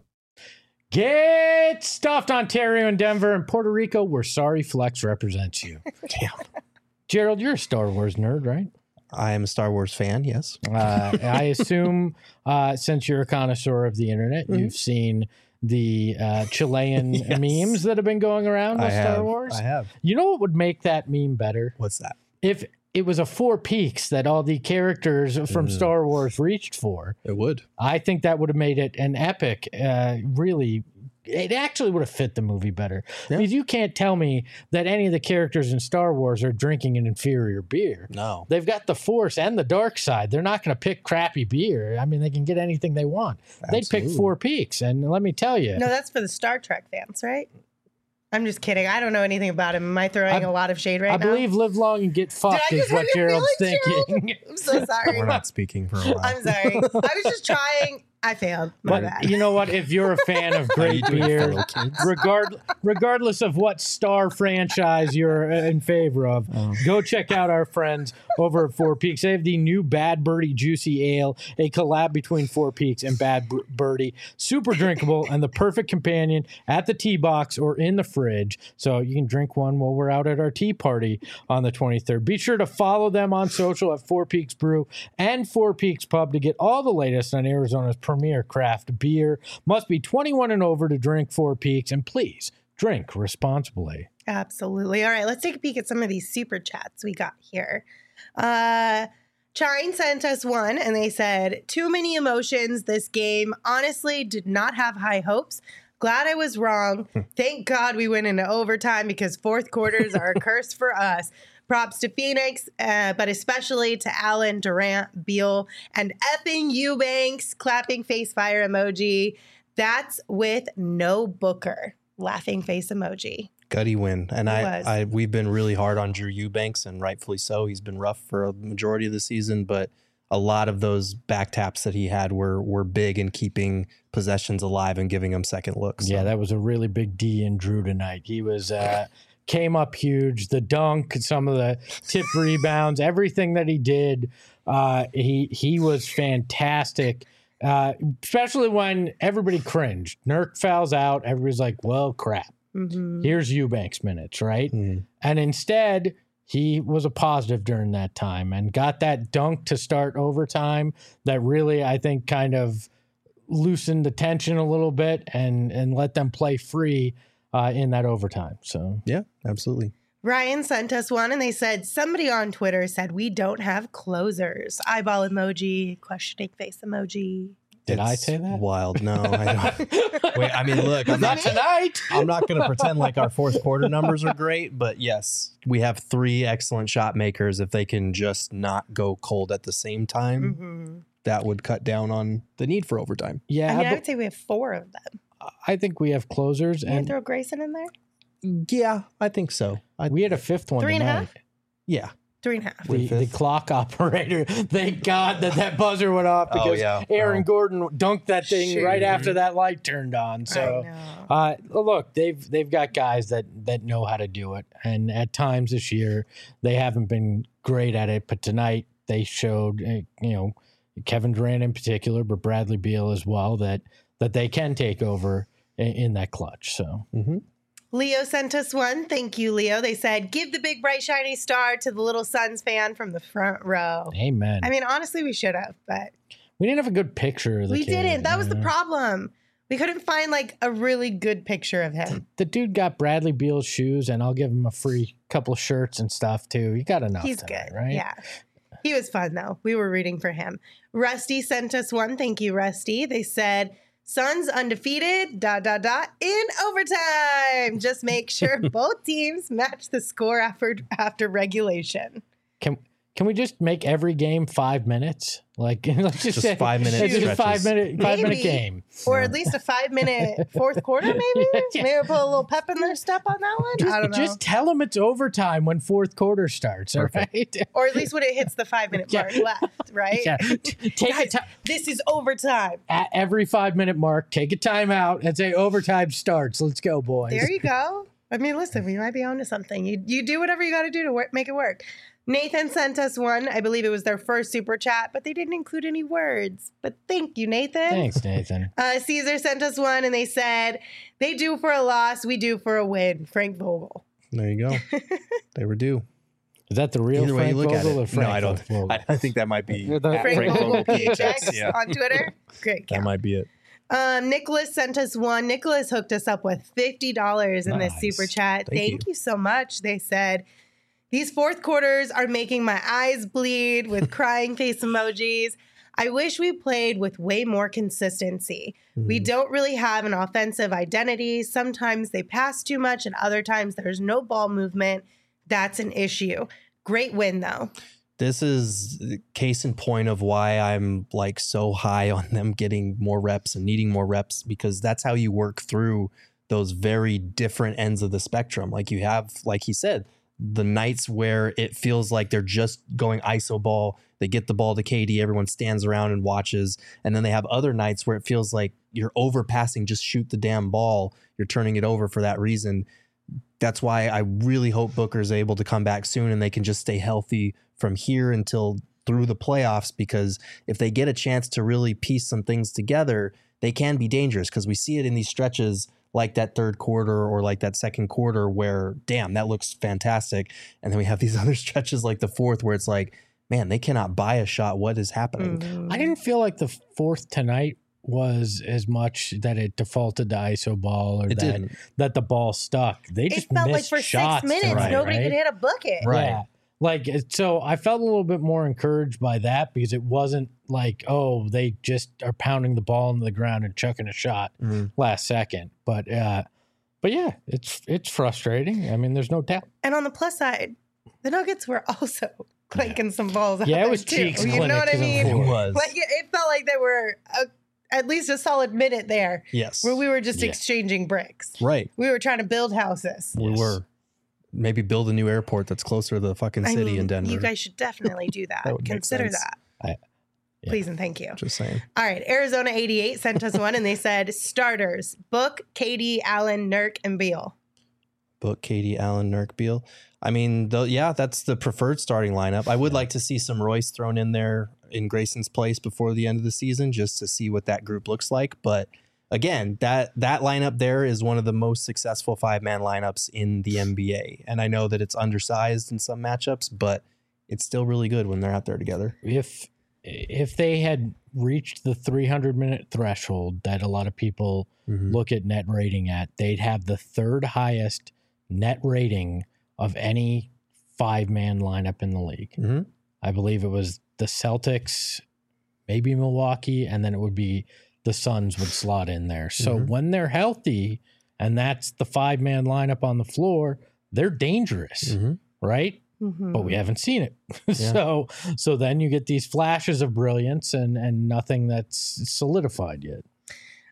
Speaker 3: Get stuffed, Ontario and Denver and Puerto Rico. We're sorry Flex represents you.
Speaker 2: Damn.
Speaker 3: Gerald, you're a Star Wars nerd, right?
Speaker 2: I am a Star Wars fan, yes.
Speaker 3: I assume since you're a connoisseur of the internet, you've seen the Chilean
Speaker 2: Yes.
Speaker 3: memes that have been going around with Star Wars.
Speaker 2: I have.
Speaker 3: You know what would make that meme better?
Speaker 2: What's that?
Speaker 3: If it was a Four Peaks that all the characters from Star Wars reached for.
Speaker 2: It would.
Speaker 3: I think that would have made it an epic, really. It actually would have fit the movie better.
Speaker 2: Yeah.
Speaker 3: Because you can't tell me that any of the characters in Star Wars are drinking an inferior beer.
Speaker 2: No.
Speaker 3: They've got the Force and the dark side. They're not going to pick crappy beer. I mean, they can get anything they want. They'd pick
Speaker 2: Absolutely.
Speaker 3: Four Peaks. And let me tell you,
Speaker 1: No, that's for the Star Trek fans, right? I'm just kidding. I don't know anything about him. Am I throwing a lot of shade right
Speaker 3: I
Speaker 1: now?
Speaker 3: believe live long and get fucked
Speaker 1: I
Speaker 3: is
Speaker 1: just
Speaker 3: what
Speaker 1: hurt your
Speaker 3: Gerald's
Speaker 1: feelings,
Speaker 3: thinking.
Speaker 1: Gerald? I'm so sorry.
Speaker 2: We're not speaking for a while.
Speaker 1: I'm sorry. I was just trying. I failed. My
Speaker 3: But
Speaker 1: bad.
Speaker 3: you know what? If you're a fan of great
Speaker 2: doing,
Speaker 3: beer,
Speaker 2: fellow kids?
Speaker 3: regardless of what Star franchise you're in favor of, go check out our friends over at Four Peaks. They have the new Bad Birdie Juicy Ale, a collab between Four Peaks and Bad Birdie. Super drinkable and the perfect companion at the tea box or in the fridge. So you can drink one while we're out at our tea party on the 23rd. Be sure to follow them on social at Four Peaks Brew and Four Peaks Pub to get all the latest on Arizona's premier craft beer. Must be 21 and over to drink Four Peaks, and please drink responsibly.
Speaker 1: Absolutely. All right, let's take a peek at some of these super chats we got here. Chine sent us one, and they said, too many emotions this game. Honestly, did not have high hopes. Glad I was wrong. Thank God we went into overtime because fourth quarters are a curse for us. Props to Phoenix, but especially to Allen, Durant, Beal, and effing Eubanks. Clapping face fire emoji. That's with no Booker. Laughing face emoji.
Speaker 2: Gutty win. And
Speaker 1: It
Speaker 2: we've been really hard on Drew Eubanks, and rightfully so. He's been rough for a majority of the season, but a lot of those back taps that he had were big in keeping possessions alive and giving him second looks.
Speaker 3: Yeah, that was a really big D in Drew tonight. He was came up huge. The dunk, some of the tip rebounds, everything that he did, he was fantastic. Especially when everybody cringed. Nurk fouls out. Everybody's like, well, crap.
Speaker 1: Mm-hmm.
Speaker 3: Here's Eubanks minutes, right?
Speaker 2: Mm.
Speaker 3: And instead, he was a positive during that time and got that dunk to start overtime that really, I think, kind of loosened the tension a little bit and let them play free in that overtime. So
Speaker 2: Yeah, absolutely.
Speaker 1: Ryan sent us one, and they said, somebody on Twitter said, we don't have closers. Eyeball emoji, questioning face emoji.
Speaker 3: Did I
Speaker 2: It's
Speaker 3: say that?
Speaker 2: Wild. No, I don't. Wait, I mean, look, I'm
Speaker 3: Not
Speaker 2: not
Speaker 3: tonight.
Speaker 2: I'm not going to pretend like our fourth quarter numbers are great, but yes, we have 3 excellent shot makers. If they can just not go cold at the same time,
Speaker 1: Mm-hmm.
Speaker 2: that would cut down on the need for overtime.
Speaker 3: Yeah,
Speaker 1: I mean, I
Speaker 3: but
Speaker 1: would say we have 4 of them.
Speaker 3: I think we have closers,
Speaker 1: Can you
Speaker 3: and
Speaker 1: throw Grayson in there?
Speaker 2: Yeah, I think so.
Speaker 3: we had a fifth one
Speaker 1: 3.5?
Speaker 3: tonight.
Speaker 2: Yeah.
Speaker 1: 3.5.
Speaker 3: The clock operator. Thank God that buzzer went off because Aaron Gordon dunked that thing right after that light turned on. So, look, they've got guys that know how to do it, and at times this year they haven't been great at it. But tonight they showed, Kevin Durant in particular, but Bradley Beal as well, that they can take over in that clutch. So. Mm-hmm.
Speaker 1: Leo sent us one. Thank you, Leo. They said, give the big, bright, shiny star to the little Suns fan from the front row.
Speaker 3: Amen.
Speaker 1: I mean, honestly, we should have, but...
Speaker 3: We didn't have a good picture of the kid.
Speaker 1: We didn't. That was the problem. We couldn't find, a really good picture of him.
Speaker 3: The dude got Bradley Beal's shoes, and I'll give him a free couple of shirts and stuff, too. He got enough.
Speaker 1: He's
Speaker 3: tonight,
Speaker 1: good,
Speaker 3: right?
Speaker 1: Yeah. He was fun, though. We were rooting for him. Rusty sent us one. Thank you, Rusty. They said... Suns undefeated, ... in overtime. Just make sure both teams match the score after regulation.
Speaker 3: Can we just make every game 5 minutes? Let's just say
Speaker 2: 5 minutes.
Speaker 3: It's just a 5 minute game,
Speaker 1: or at least a 5 minute fourth quarter. Maybe maybe put a little pep in their step on that one. I don't know.
Speaker 3: Just tell them it's overtime when fourth quarter starts. All right,
Speaker 1: or at least when it hits the 5 minute mark left. Right.
Speaker 3: Yeah. Take a
Speaker 1: this is overtime.
Speaker 3: At every 5 minute mark, take a timeout and say overtime starts. Let's go, boys.
Speaker 1: There you go. I mean, listen, we might be onto something. You do whatever you got to do to make it work. Nathan sent us one. I believe it was their first super chat, but they didn't include any words. But thank you, Nathan.
Speaker 3: Thanks, Nathan.
Speaker 1: Caesar sent us one, and they said, they do for a loss, we do for a win. Frank Vogel.
Speaker 2: There you go. They were due.
Speaker 3: Is that the real
Speaker 2: Either way
Speaker 3: Frank
Speaker 2: you look
Speaker 3: Vogel
Speaker 2: at it.
Speaker 3: or Frank
Speaker 2: No, I don't.
Speaker 3: Vogel?
Speaker 2: I think that might be
Speaker 1: Frank Vogel
Speaker 2: PHX.
Speaker 1: PHX on Twitter. Great count.
Speaker 2: That might be it.
Speaker 1: Nicholas sent us one. Nicholas hooked us up with $50 in this super chat. Thank you so much. They said, these fourth quarters are making my eyes bleed with crying face emojis. I wish we played with way more consistency. We don't really have an offensive identity. Sometimes they pass too much and other times there's no ball movement. That's an issue. Great win, though.
Speaker 2: This is case in point of why I'm so high on them getting more reps and needing more reps, because that's how you work through those very different ends of the spectrum. You have, like he said, the nights where it feels like they're just going iso ball. They get the ball to KD, everyone stands around and watches. And then they have other nights where it feels like you're overpassing, just shoot the damn ball. You're turning it over for that reason. That's why I really hope Booker's able to come back soon and they can just stay healthy from here until through the playoffs, because if they get a chance to really piece some things together, they can be dangerous, because we see it in these stretches like that third quarter or like that second quarter where, damn, that looks fantastic. And then we have these other stretches like the fourth where it's like, man, they cannot buy a shot. What is happening?
Speaker 3: I didn't feel like the fourth tonight was as much that it defaulted to iso ball or that the ball stuck. They just
Speaker 1: felt
Speaker 3: missed
Speaker 1: like for
Speaker 3: shots
Speaker 1: 6 minutes,
Speaker 3: tonight,
Speaker 1: nobody could hit a bucket.
Speaker 3: Right. Yeah. So I felt a little bit more encouraged by that, because it wasn't like, oh, they just are pounding the ball into the ground and chucking a shot last second. But yeah, it's frustrating. I mean, there's no doubt.
Speaker 1: And on the plus side, the Nuggets were also clanking some balls out.
Speaker 3: Yeah, it was
Speaker 1: too.
Speaker 3: cheeks.
Speaker 1: You know what I mean?
Speaker 2: It was.
Speaker 1: It felt like there were at least a solid minute there.
Speaker 2: Yes.
Speaker 1: Where we were just exchanging bricks.
Speaker 2: Right.
Speaker 1: We were trying to build houses.
Speaker 2: We were. Maybe build a new airport that's closer to the fucking city in Denver.
Speaker 1: You guys should definitely do that.
Speaker 2: That would
Speaker 1: Consider
Speaker 2: make sense.
Speaker 1: that. Please and thank you.
Speaker 2: Just saying.
Speaker 1: All right. Arizona 88 sent us one, and they said, starters, Book, KD, Allen, Nurk, and Beal.
Speaker 2: Book, KD, Allen, Nurk, Beal. I mean, that's the preferred starting lineup. I would like to see some Royce thrown in there in Grayson's place before the end of the season, just to see what that group looks like. But again, that lineup there is one of the most successful 5-man lineups in the NBA. And I know that it's undersized in some matchups, but it's still really good when they're out there together.
Speaker 3: If they had reached the 300-minute threshold that a lot of people look at net rating at, they'd have the third highest net rating of any 5-man lineup in the league. I believe it was the Celtics, maybe Milwaukee, and then it would be the Suns would slot in there. So when they're healthy and that's the 5-man lineup on the floor, they're dangerous, right? But we haven't seen it. So then you get these flashes of brilliance and nothing that's solidified yet.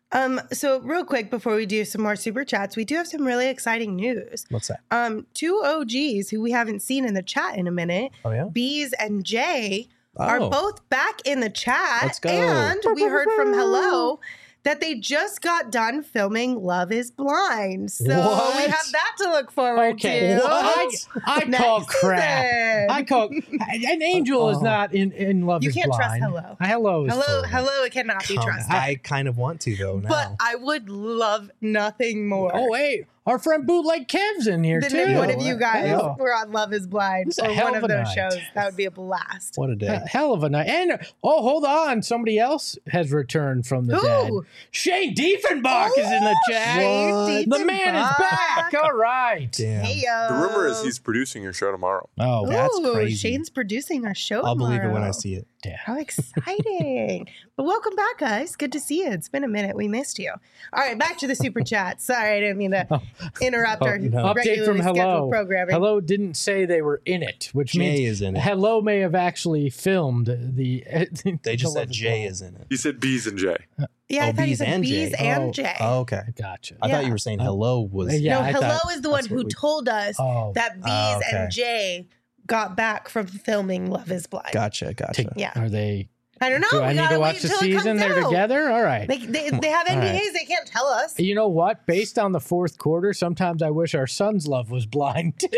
Speaker 1: So real quick before we do some more super chats, we do have some really exciting news.
Speaker 2: What's that?
Speaker 1: Two OGs who we haven't seen in the chat in a minute,
Speaker 2: Oh, yeah?
Speaker 1: Bees and Jay, are
Speaker 2: Oh.
Speaker 1: both back in the chat.
Speaker 2: Let's go.
Speaker 1: And we heard from Hello that they just got done filming Love is Blind. So
Speaker 3: What?
Speaker 1: we have that to look forward
Speaker 3: Okay,
Speaker 1: to.
Speaker 3: I
Speaker 1: Next
Speaker 3: call crap.
Speaker 1: season.
Speaker 3: I call an angel is not in Love
Speaker 1: You
Speaker 3: is
Speaker 1: can't trust
Speaker 3: Blind.
Speaker 1: Hello.
Speaker 3: Hello is
Speaker 1: Hello,
Speaker 3: for it.
Speaker 1: Hello, it cannot be trusted.
Speaker 2: I kind of want to, though, now.
Speaker 1: But I would love nothing more.
Speaker 3: Oh wait, our friend Bootleg Kev's in here
Speaker 1: than
Speaker 3: too.
Speaker 1: if one of you guys
Speaker 3: Yeah.
Speaker 1: were on Love is Blind
Speaker 3: It's a
Speaker 1: or
Speaker 3: hell
Speaker 1: one
Speaker 3: of
Speaker 1: of
Speaker 3: a
Speaker 1: those
Speaker 3: night.
Speaker 1: shows. That would be a blast.
Speaker 2: What a day.
Speaker 3: Hell of a night. And hold on, somebody else has returned from the dead.
Speaker 1: Who?
Speaker 3: Shane Diefenbach is in the chat.
Speaker 1: Shane
Speaker 3: The man is back.
Speaker 1: Diefenbach.
Speaker 3: All right.
Speaker 2: Damn.
Speaker 1: Hey,
Speaker 5: The rumor is he's producing your show tomorrow.
Speaker 3: Oh,
Speaker 2: That's crazy.
Speaker 1: Shane's producing our show.
Speaker 2: I'll believe it when I
Speaker 1: tomorrow.
Speaker 2: see it.
Speaker 1: How exciting. But welcome back, guys. Good to see you. It's been a minute. We missed you. All right, back to the super chat. Sorry, I didn't mean to interrupt our
Speaker 2: no.
Speaker 3: update
Speaker 1: regularly
Speaker 3: from
Speaker 1: scheduled
Speaker 3: Hello.
Speaker 1: programming.
Speaker 3: Hello didn't say they were in it, which
Speaker 2: Jay
Speaker 3: means
Speaker 2: is in it.
Speaker 3: Hello may have actually filmed the.
Speaker 2: They just
Speaker 3: the
Speaker 2: said
Speaker 3: Love
Speaker 2: Jay
Speaker 3: Blind.
Speaker 2: is in it.
Speaker 5: He said Bees and Jay.
Speaker 1: Yeah, I
Speaker 2: Oh,
Speaker 1: thought you
Speaker 2: Bees
Speaker 1: said
Speaker 2: and
Speaker 1: Bees
Speaker 2: Jay.
Speaker 1: and
Speaker 3: Oh.
Speaker 1: Jay.
Speaker 2: Oh, okay.
Speaker 3: Gotcha.
Speaker 2: I thought
Speaker 1: Yeah.
Speaker 2: you were saying hello was.
Speaker 3: Yeah,
Speaker 1: no,
Speaker 3: I
Speaker 1: Hello
Speaker 3: thought
Speaker 1: is the one
Speaker 2: that's
Speaker 1: who
Speaker 2: what we-
Speaker 1: told us
Speaker 3: Oh.
Speaker 1: that Bees
Speaker 2: Oh, okay.
Speaker 1: and Jay got back from filming Love is Blind.
Speaker 2: Gotcha.
Speaker 1: Yeah.
Speaker 3: Are they?
Speaker 1: I don't know.
Speaker 3: Do
Speaker 1: We
Speaker 3: I need
Speaker 1: gotta
Speaker 3: to
Speaker 1: wait
Speaker 3: watch the
Speaker 1: until it comes
Speaker 3: season? They're
Speaker 1: out.
Speaker 3: together. All right.
Speaker 1: They have
Speaker 3: All
Speaker 1: NDAs.
Speaker 3: right.
Speaker 1: They can't tell us.
Speaker 3: You know what? Based on the fourth quarter, sometimes I wish our son's love was blind too.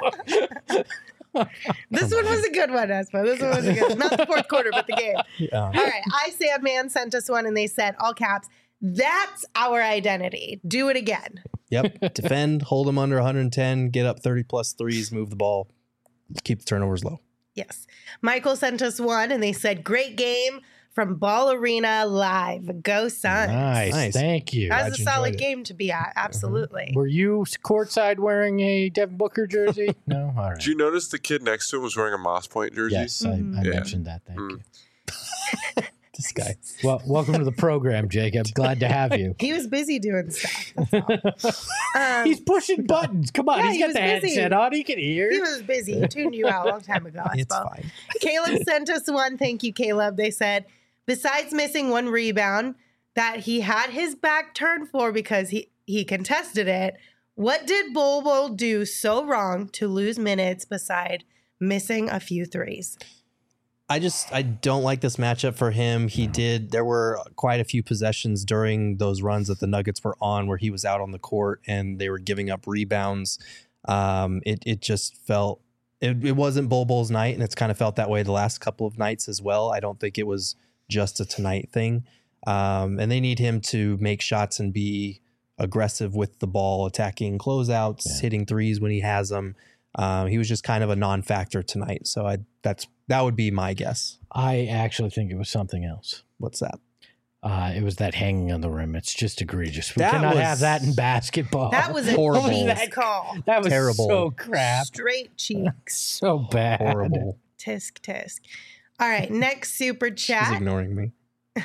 Speaker 1: This one was a good one, Espo. This one was a good. Not the fourth quarter, but the game.
Speaker 2: Yeah.
Speaker 1: All right. I Sandman sent us one, and they said all caps. That's our identity. Do it again.
Speaker 2: Yep. Defend, hold them under 110, get up 30 plus threes, move the ball, keep the turnovers low.
Speaker 1: Yes. Michael sent us one, and they said great game from Ball Arena Live. Go Suns.
Speaker 3: Nice. Thank you.
Speaker 1: That
Speaker 2: Glad
Speaker 1: was a
Speaker 2: you
Speaker 1: solid
Speaker 2: enjoyed it.
Speaker 1: game to be at. Absolutely.
Speaker 3: Were you courtside wearing a Devin Booker jersey? No. All right.
Speaker 5: Did you notice the kid next to him was wearing a Moss Point jersey?
Speaker 3: Yes, I
Speaker 1: Mhm.
Speaker 5: Yeah.
Speaker 3: mentioned that. Thank
Speaker 5: Mm.
Speaker 3: you.
Speaker 2: This guy.
Speaker 3: Well, welcome to the program, Jacob. Glad to have you.
Speaker 1: He was busy doing stuff. That's all.
Speaker 3: He's pushing buttons. Come on,
Speaker 1: Yeah,
Speaker 3: he's
Speaker 1: he
Speaker 3: got
Speaker 1: was
Speaker 3: the
Speaker 1: busy.
Speaker 3: headset on. He can hear.
Speaker 1: He was busy. He tuned you out a long time ago, I
Speaker 2: It's
Speaker 1: suppose.
Speaker 2: fine.
Speaker 1: Caleb sent us one. Thank you, Caleb. They said, besides missing one rebound that he had his back turned for because he contested it, what did Bobo do so wrong to lose minutes beside missing a few threes?
Speaker 2: I don't like this matchup for him. There were quite a few possessions during those runs that the Nuggets were on where he was out on the court and they were giving up rebounds. It just felt, it wasn't Bulbul's night, and it's kind of felt that way the last couple of nights as well. I don't think it was just a tonight thing. And they need him to make shots and be aggressive with the ball, attacking closeouts, hitting threes when he has them. He was just kind of a non-factor tonight. So that would be my guess.
Speaker 3: I actually think it was something else.
Speaker 2: What's that?
Speaker 3: It was that hanging on the rim. It's just egregious. We
Speaker 2: That
Speaker 3: cannot
Speaker 2: was-
Speaker 3: have that in basketball.
Speaker 1: That was a
Speaker 2: Horrible.
Speaker 1: cheeks call.
Speaker 3: That was
Speaker 2: terrible.
Speaker 3: so crap.
Speaker 1: Straight cheeks.
Speaker 3: So bad.
Speaker 2: Horrible.
Speaker 1: Tisk, tisk. All right, next super
Speaker 2: She's
Speaker 1: chat.
Speaker 2: ignoring me.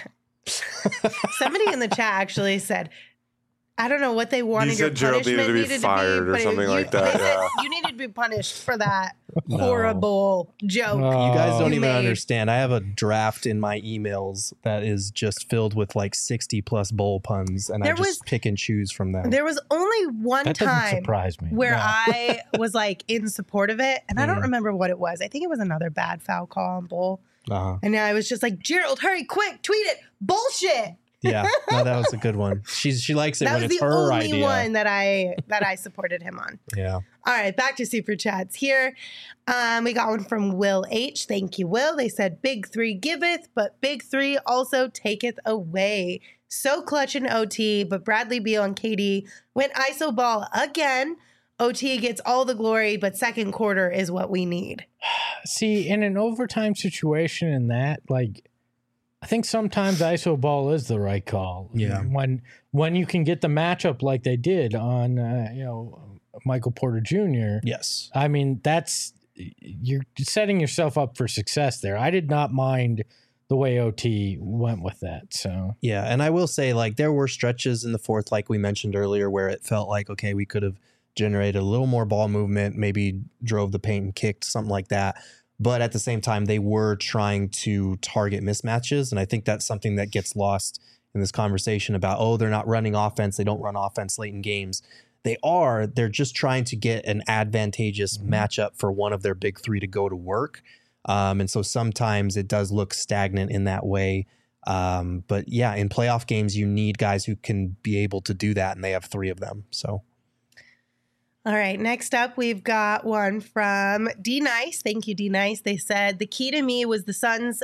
Speaker 1: Somebody in the chat actually said, I don't know what they wanted
Speaker 5: said
Speaker 1: your
Speaker 5: Gerald needed
Speaker 1: punishment
Speaker 5: to be fired or
Speaker 1: but
Speaker 5: something like
Speaker 1: they
Speaker 5: that,
Speaker 1: said
Speaker 5: yeah.
Speaker 1: you needed to be punished for that
Speaker 2: No.
Speaker 1: horrible joke.
Speaker 3: No.
Speaker 2: You guys don't
Speaker 1: You
Speaker 2: even
Speaker 1: made.
Speaker 2: understand. I have a draft in my emails that is just filled with like 60 plus bowl puns, and
Speaker 1: There
Speaker 2: I just
Speaker 1: was-
Speaker 2: pick and choose from them.
Speaker 1: There was only one
Speaker 3: That doesn't
Speaker 1: time
Speaker 3: surprise me.
Speaker 1: where
Speaker 3: No.
Speaker 1: I was like in support of it, and I don't
Speaker 2: Mhm.
Speaker 1: remember what it was. I think it was another bad foul call on Bull.
Speaker 2: Uh-huh.
Speaker 1: And I was just like, Gerald, hurry, quick, tweet it. Bullshit.
Speaker 2: Yeah, no, that was a good one. She likes it
Speaker 1: That
Speaker 2: when
Speaker 1: was
Speaker 2: it's
Speaker 1: the
Speaker 2: her
Speaker 1: only
Speaker 2: idea.
Speaker 1: one that I supported him on.
Speaker 2: Yeah.
Speaker 1: All right, back to super chats here. We got one from Will H. Thank you, Will. They said, Big Three giveth, but Big Three also taketh away. So clutch in OT, but Bradley Beal and KD went ISO ball again. OT gets all the glory, but second quarter is what we need.
Speaker 3: See, in an overtime situation in that, like, I think sometimes ISO ball is the right call.
Speaker 2: Yeah.
Speaker 3: When you can get the matchup like they did on, Michael Porter Jr.
Speaker 2: Yes.
Speaker 3: I mean, you're setting yourself up for success there. I did not mind the way OT went with that. So
Speaker 2: Yeah, and I will say, like, there were stretches in the fourth, like we mentioned earlier, where it felt like, okay, we could have generated a little more ball movement, maybe drove the paint and kicked, something like that. But at the same time, they were trying to target mismatches, and I think that's something that gets lost in this conversation about, oh, they're not running offense. They don't run offense late in games. They're just trying to get an advantageous matchup for one of their big three to go to work. And so sometimes it does look stagnant in that way. But yeah, in playoff games, you need guys who can be able to do that. And they have three of them. So.
Speaker 1: All right. Next up, we've got one from D Nice. Thank you, D Nice. They said, the key to me was the Suns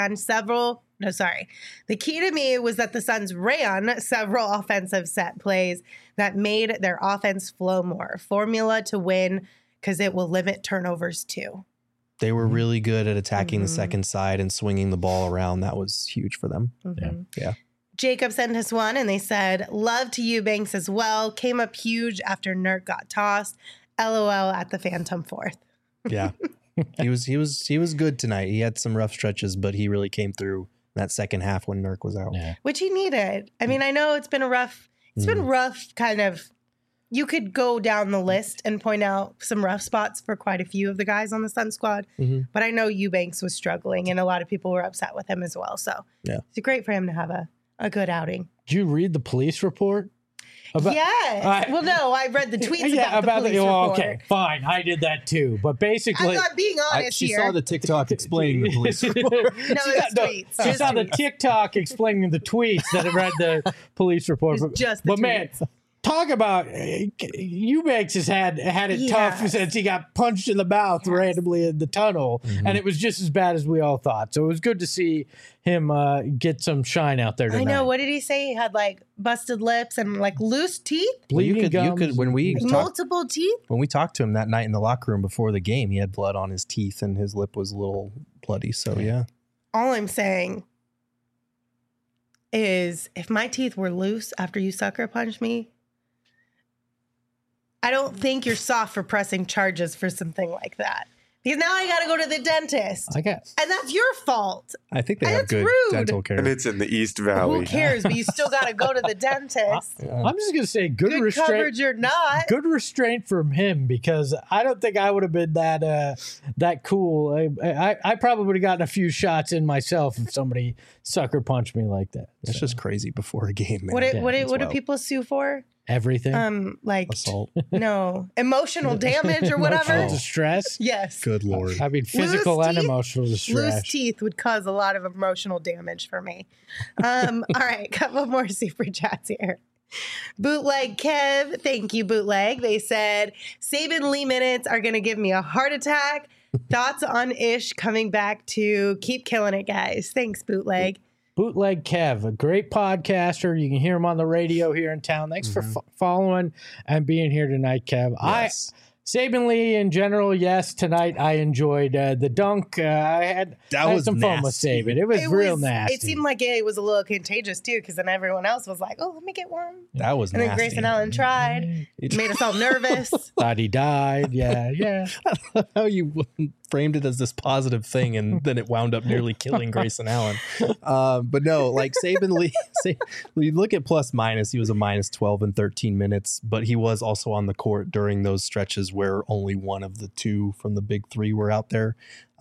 Speaker 1: The key to me was that the Suns ran several offensive set plays that made their offense flow more. Formula to win, because it will limit turnovers too.
Speaker 2: They were really good at attacking the second side and swinging the ball around. That was huge for them. Yeah.
Speaker 1: Jacob sent us one, and they said, love to Eubanks as well. Came up huge after Nurk got tossed. LOL at the Phantom fourth.
Speaker 2: Yeah. He was good tonight. He had some rough stretches, but he really came through that second half when Nurk was out.
Speaker 3: Yeah.
Speaker 1: Which he needed. I mean, I know it's been rough kind of. You could go down the list and point out some rough spots for quite a few of the guys on the Sun squad. But I know Eubanks was struggling, and a lot of people were upset with him as well. So it's great for him to have a good outing.
Speaker 3: Did you read the police report?
Speaker 1: Yes. Well, no, I read the tweets about the police report.
Speaker 3: Okay, fine. I did that too. But basically,
Speaker 1: I'm not being honest
Speaker 2: She
Speaker 1: here.
Speaker 2: saw the TikTok explaining the police report.
Speaker 1: No, it's tweets.
Speaker 3: She saw the TikTok explaining the tweets that read the police report.
Speaker 1: It's just the
Speaker 3: but
Speaker 1: tweets.
Speaker 3: Man, talk about Eubanks has had it tough since he got punched in the mouth randomly in the tunnel, and it was just as bad as we all thought. So it was good to see him get some shine out there tonight.
Speaker 1: I know. What did he say? He had like busted lips and like loose teeth,
Speaker 3: bleeding gums.
Speaker 2: When we
Speaker 1: multiple teeth.
Speaker 2: When we talked to him that night in the locker room before the game, he had blood on his teeth and his lip was a little bloody. So yeah.
Speaker 1: All I'm saying is, if my teeth were loose after you sucker punched me, I don't think you're soft for pressing charges for something like that. Because now I got to go to the dentist.
Speaker 3: I guess.
Speaker 1: And that's your fault.
Speaker 2: I think they have good dental care.
Speaker 5: And it's in the East Valley.
Speaker 1: Who cares? But you still got to go to the dentist.
Speaker 3: I'm just going to say good restraint.
Speaker 1: Coverage or not.
Speaker 3: Good restraint from him, because I don't think I would have been that cool. I probably would have gotten a few shots in myself if somebody sucker punched me like that.
Speaker 2: It's just crazy before a game, man.
Speaker 1: What do people sue for?
Speaker 3: Everything.
Speaker 1: Like
Speaker 2: assault.
Speaker 1: No, emotional damage or whatever.
Speaker 3: Emotional distress.
Speaker 1: Yes.
Speaker 2: Good Lord.
Speaker 3: I mean, physical and emotional distress.
Speaker 1: Loose teeth would cause a lot of emotional damage for me. All right, couple more super chats here. Bootleg Kev, thank you, Bootleg. They said Saban Lee minutes are going to give me a heart attack. Thoughts on Ish coming back to keep killing it, guys. Thanks, Bootleg.
Speaker 3: Bootleg Kev, a great podcaster. You can hear him on the radio here in town. Thanks for following and being here tonight, Kev.
Speaker 2: Yes.
Speaker 3: Saban Lee in general, yes. Tonight I enjoyed the dunk. I had some fun with Saban. It was real nasty.
Speaker 1: It seemed like it was a little contagious too, because then everyone else was like, "Oh, let me get one."
Speaker 2: That was
Speaker 1: and
Speaker 2: nasty.
Speaker 1: then Grayson Allen tried, made us all nervous.
Speaker 3: Thought he died. Yeah.
Speaker 2: I love how you framed it as this positive thing, and then it wound up nearly killing Grayson Allen. But no, like Saban Lee, you look at plus minus, he was a minus 12 in 13 minutes, but he was also on the court during those stretches where only one of the two from the big three were out there.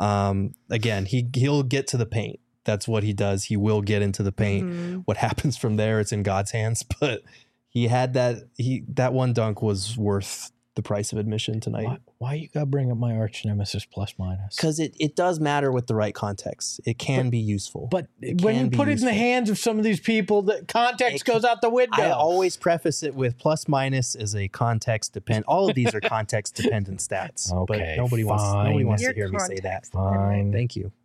Speaker 2: Again, he'll get to the paint. That's what he does. He will get into the paint. What happens from there, it's in God's hands. But he had that one dunk was worth the price of admission tonight.
Speaker 3: Why you gotta bring up my arch nemesis plus minus?
Speaker 2: Because it does matter with the right context. It can be useful.
Speaker 3: But when you put it in the hands of some of these people, the context goes out the window.
Speaker 2: I always preface it with plus minus is a context dependent. All of these are context dependent stats.
Speaker 3: Okay,
Speaker 2: but nobody wants to hear me say that.
Speaker 3: Fine.
Speaker 2: Thank you.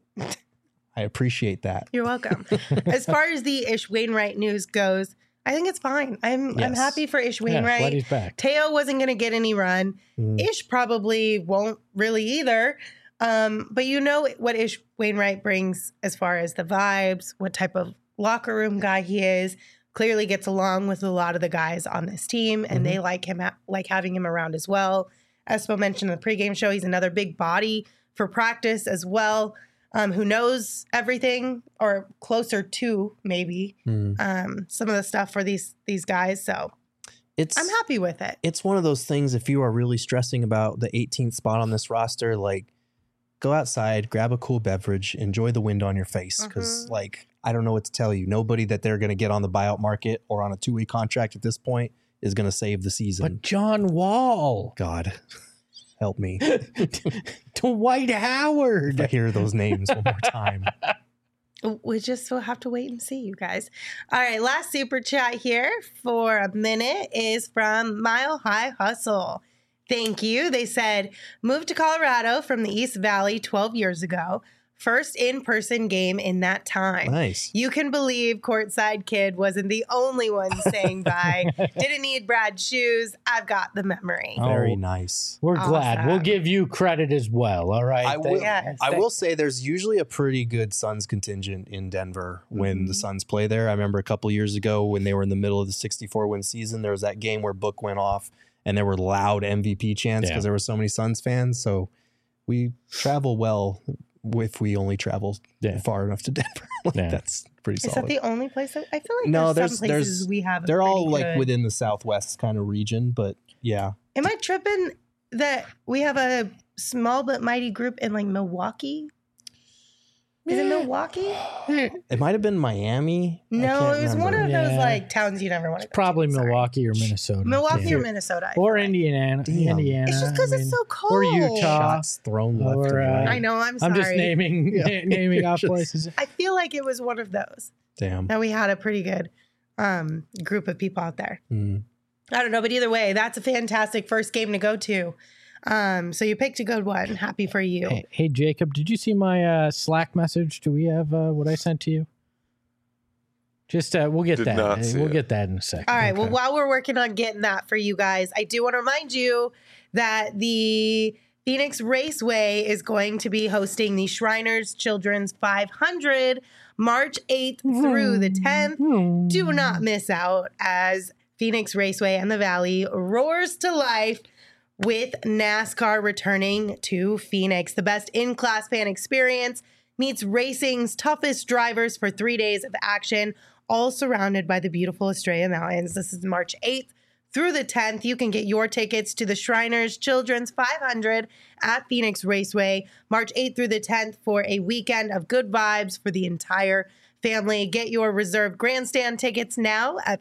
Speaker 2: I appreciate that.
Speaker 1: You're welcome. As far as the Ish Wainwright news goes, I think it's fine. I'm happy for Ish Wainwright.
Speaker 3: Glad he's back.
Speaker 1: Teo wasn't going to get any run. Ish probably won't really either. But you know what Ish Wainwright brings as far as the vibes, what type of locker room guy he is. Clearly gets along with a lot of the guys on this team, and they like him, like having him around as well. Espo mentioned in the pregame show, he's another big body for practice as well. Who knows everything, or closer to maybe some of the stuff for these guys. So I'm happy with it.
Speaker 2: It's one of those things, if you are really stressing about the 18th spot on this roster, like go outside, grab a cool beverage, enjoy the wind on your face. Because I don't know what to tell you. Nobody that they're going to get on the buyout market or on a 2-way contract at this point is going to save the season.
Speaker 3: But John Wall,
Speaker 2: God, help me.
Speaker 3: Dwight Howard.
Speaker 2: I hear those names one more time.
Speaker 1: We just will have to wait and see, you guys. All right, last super chat here for a minute is from Mile High Hustle. Thank you. They said, moved to Colorado from the East Valley 12 years ago. First in-person game in that time.
Speaker 2: Nice.
Speaker 1: You can believe Courtside Kid wasn't the only one saying bye. Didn't need Brad's shoes. I've got the memory.
Speaker 2: Very nice.
Speaker 3: We're glad.
Speaker 1: Awesome.
Speaker 3: We'll give you credit as well. All right.
Speaker 2: I will say there's usually a pretty good Suns contingent in Denver when the Suns play there. I remember a couple years ago when they were in the middle of the 64-win season, there was that game where Book went off and there were loud MVP chants because there were so many Suns fans. So we travel well if we only travel far enough to Denver. That's pretty solid.
Speaker 1: Is that the only place that I feel like
Speaker 2: No,
Speaker 1: there's some places we have?
Speaker 2: They're all
Speaker 1: pretty
Speaker 2: like
Speaker 1: good.
Speaker 2: within the Southwest kind of region, but yeah.
Speaker 1: Am I tripping that we have a small but mighty group in like Milwaukee? Is it Milwaukee?
Speaker 2: It might have been Miami. I
Speaker 1: No,
Speaker 2: can't
Speaker 1: it was one
Speaker 2: remember.
Speaker 1: of those like towns you never want to go
Speaker 3: Probably
Speaker 1: to. Sorry.
Speaker 3: Milwaukee or Minnesota.
Speaker 1: Milwaukee or Minnesota. I
Speaker 3: Or
Speaker 1: feel like.
Speaker 3: Indiana.
Speaker 2: Damn.
Speaker 3: Indiana.
Speaker 1: It's just because it's so cold.
Speaker 3: Or Utah.
Speaker 2: Shots thrown left
Speaker 3: Or,
Speaker 2: and right.
Speaker 1: I know, I'm sorry.
Speaker 3: I'm just naming off places.
Speaker 1: I feel like it was one of those.
Speaker 2: Damn.
Speaker 1: That we had a pretty good group of people out there.
Speaker 2: Mm.
Speaker 1: I don't know, but either way, that's a fantastic first game to go to. So you picked a good one. Happy for you.
Speaker 3: Hey, Jacob, did you see my Slack message? Do we have what I sent to you? Just we'll get
Speaker 5: Did
Speaker 3: that.
Speaker 5: not see
Speaker 3: We'll
Speaker 5: it.
Speaker 3: get that in a second.
Speaker 1: All right. Well, while we're working on getting that for you guys, I do want to remind you that the Phoenix Raceway is going to be hosting the Shriners Children's 500 March 8th through the 10th. Do not miss out as Phoenix Raceway and the Valley roars to life with NASCAR returning to Phoenix. The best in-class fan experience meets racing's toughest drivers for 3 days of action, all surrounded by the beautiful Estrella Mountains. This is March 8th through the 10th. You can get your tickets to the Shriners Children's 500 at Phoenix Raceway, March 8th through the 10th for a weekend of good vibes for the entire family. Get your reserved grandstand tickets now at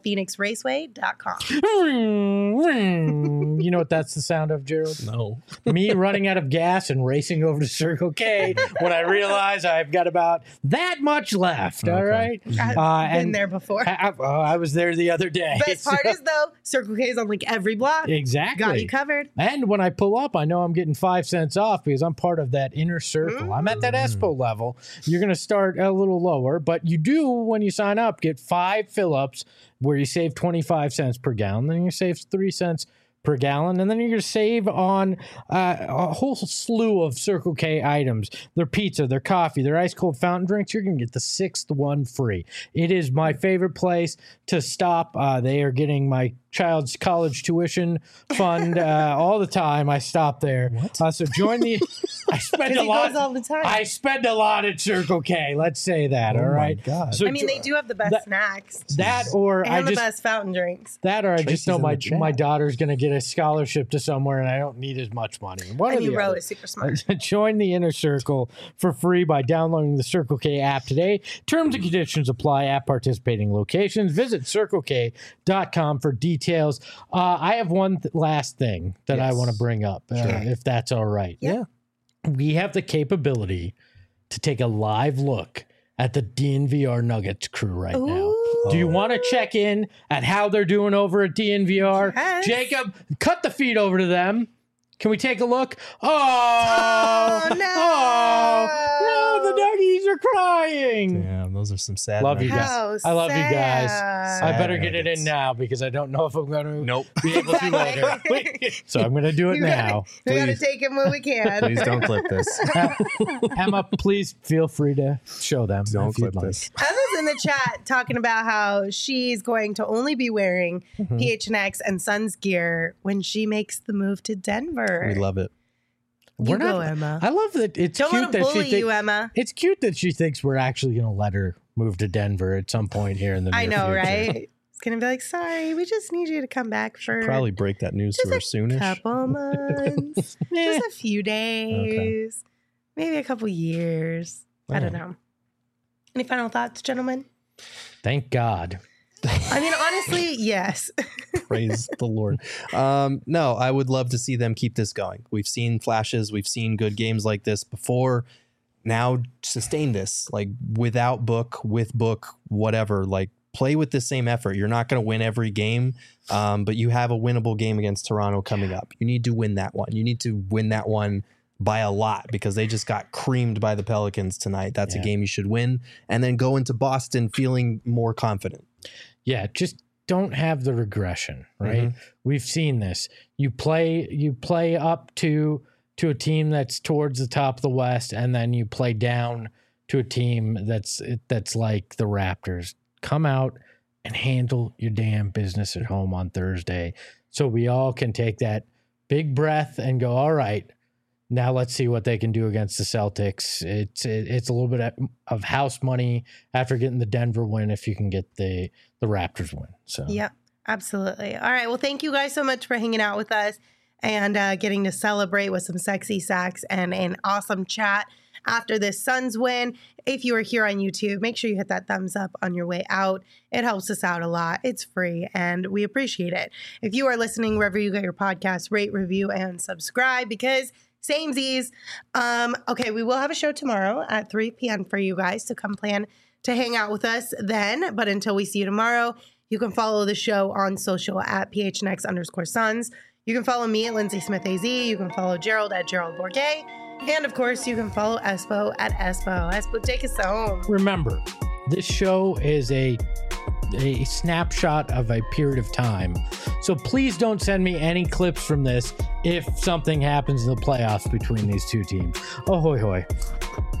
Speaker 1: phoenixraceway.com.
Speaker 3: You know what that's the sound of, Gerald?
Speaker 2: No.
Speaker 3: Me running out of gas and racing over to Circle K when I realize I've got about that much left. All right.
Speaker 1: I've been there before.
Speaker 3: I was there the other day.
Speaker 1: Best part is, though, Circle K is on like every block.
Speaker 3: Exactly.
Speaker 1: Got you covered.
Speaker 3: And when I pull up, I know I'm getting 5 cents off because I'm part of that inner circle. I'm at that Espo level. You're going to start a little lower, but you do, when you sign up, get 5 fill-ups where you save 25 cents per gallon. Then you save 3 cents per gallon, and then you're going to save on a whole slew of Circle K items. Their pizza, their coffee, their ice-cold fountain drinks. You're going to get the 6th one free. It is my favorite place to stop. They are getting my child's college tuition fund all the time. I stop there. So join the... I spend a
Speaker 1: He
Speaker 3: lot.
Speaker 1: goes all the time.
Speaker 3: I spend a lot at Circle K. Let's say that.
Speaker 2: Oh
Speaker 3: all
Speaker 2: my
Speaker 3: right.
Speaker 2: God.
Speaker 3: So
Speaker 1: I mean, they do have the best snacks
Speaker 3: that, or
Speaker 1: and
Speaker 3: I
Speaker 1: the
Speaker 3: just
Speaker 1: best fountain drinks.
Speaker 3: that, or I
Speaker 2: Tracy's
Speaker 3: just know
Speaker 2: in
Speaker 3: my
Speaker 2: the chat.
Speaker 3: my daughter's going to get a scholarship to somewhere, and I don't need as much money. One
Speaker 1: And
Speaker 3: or
Speaker 1: you
Speaker 3: the
Speaker 1: wrote
Speaker 3: other.
Speaker 1: is super smart.
Speaker 3: Join the Inner Circle for free by downloading the Circle K app today. Terms and conditions apply at participating locations. Visit CircleK.com for details. I have one last thing that I
Speaker 2: Yes.
Speaker 3: want to bring up, if that's all right.
Speaker 2: Yeah.
Speaker 3: We have the capability to take a live look at the DNVR Nuggets crew right now.
Speaker 1: Ooh.
Speaker 3: Do you want to check in at how they're doing over at DNVR?
Speaker 1: Yes.
Speaker 3: Jacob, cut the feed over to them. Can we take a look? Oh,
Speaker 1: Oh, no.
Speaker 3: Oh, no, the Nuggies are crying.
Speaker 2: Damn, those are some sad
Speaker 3: Love you
Speaker 2: nuggets.
Speaker 3: guys. I love you guys.
Speaker 1: sad.
Speaker 3: I better
Speaker 2: Sad
Speaker 3: get it
Speaker 2: nuggets.
Speaker 3: in now because I don't know if I'm going to
Speaker 2: Nope.
Speaker 3: be able to later. So I'm going to do it
Speaker 1: You gotta-
Speaker 3: now.
Speaker 1: We got to
Speaker 2: Please.
Speaker 1: take it when we can.
Speaker 2: Please don't clip this.
Speaker 3: Emma, please feel free to show them.
Speaker 2: Don't
Speaker 3: if you'd
Speaker 2: clip
Speaker 3: like.
Speaker 2: this.
Speaker 1: Emma's in the chat talking about how she's going to only be wearing PHNX and Suns gear when she makes the move to Denver.
Speaker 2: We love it.
Speaker 1: You go, Emma.
Speaker 3: I love that it's
Speaker 1: Don't
Speaker 3: cute
Speaker 1: let
Speaker 3: that
Speaker 1: them bully
Speaker 3: she
Speaker 1: you, Emma.
Speaker 3: It's cute that she thinks we're actually going to let her move to Denver at some point here in the near
Speaker 1: I know,
Speaker 3: future.
Speaker 1: right? It's going to be like, sorry, we just need you to come back for
Speaker 2: Probably break that news to her
Speaker 1: just a
Speaker 2: soonish.
Speaker 1: couple months,
Speaker 3: Eh,
Speaker 1: just a few days, maybe a couple years. I don't know. Any final thoughts, gentlemen?
Speaker 3: Thank God.
Speaker 1: I mean, honestly, yes.
Speaker 2: Praise the Lord. No, I would love to see them keep this going. We've seen flashes. We've seen good games like this before. Now sustain this, like without Book, with Book, whatever, like play with the same effort. You're not going to win every game, but you have a winnable game against Toronto coming up. You need to win that one. You need to win that one by a lot because they just got creamed by the Pelicans tonight. That's a game you should win, and then go into Boston feeling more confident.
Speaker 3: Yeah, just don't have the regression, right? We've seen this. You play up to a team that's towards the top of the West, and then you play down to a team that's like the Raptors. Come out and handle your damn business at home on Thursday so we all can take that big breath and go, all right, now let's see what they can do against the Celtics. It's a little bit of house money after getting the Denver win if you can get the Raptors win. So
Speaker 1: Yep, absolutely. All right. Well, thank you guys so much for hanging out with us and getting to celebrate with some sexy sacks and an awesome chat after this Suns win. If you are here on YouTube, make sure you hit that thumbs up on your way out. It helps us out a lot. It's free and we appreciate it. If you are listening wherever you get your podcast, rate, review, and subscribe because samesies. Okay, we will have a show tomorrow at 3 p.m. for you guys to come plan to hang out with us then. But until we see you tomorrow, you can follow the show on social at PHNX_Suns. You can follow me at Lindsay Smith AZ. You can follow Gerald at Gerald Bourget. And of course, you can follow Espo at Espo. Espo, take us home.
Speaker 3: remember, this show is a snapshot of a period of time. So please don't send me any clips from this if something happens in the playoffs between these two teams. Oh, hoy, hoy.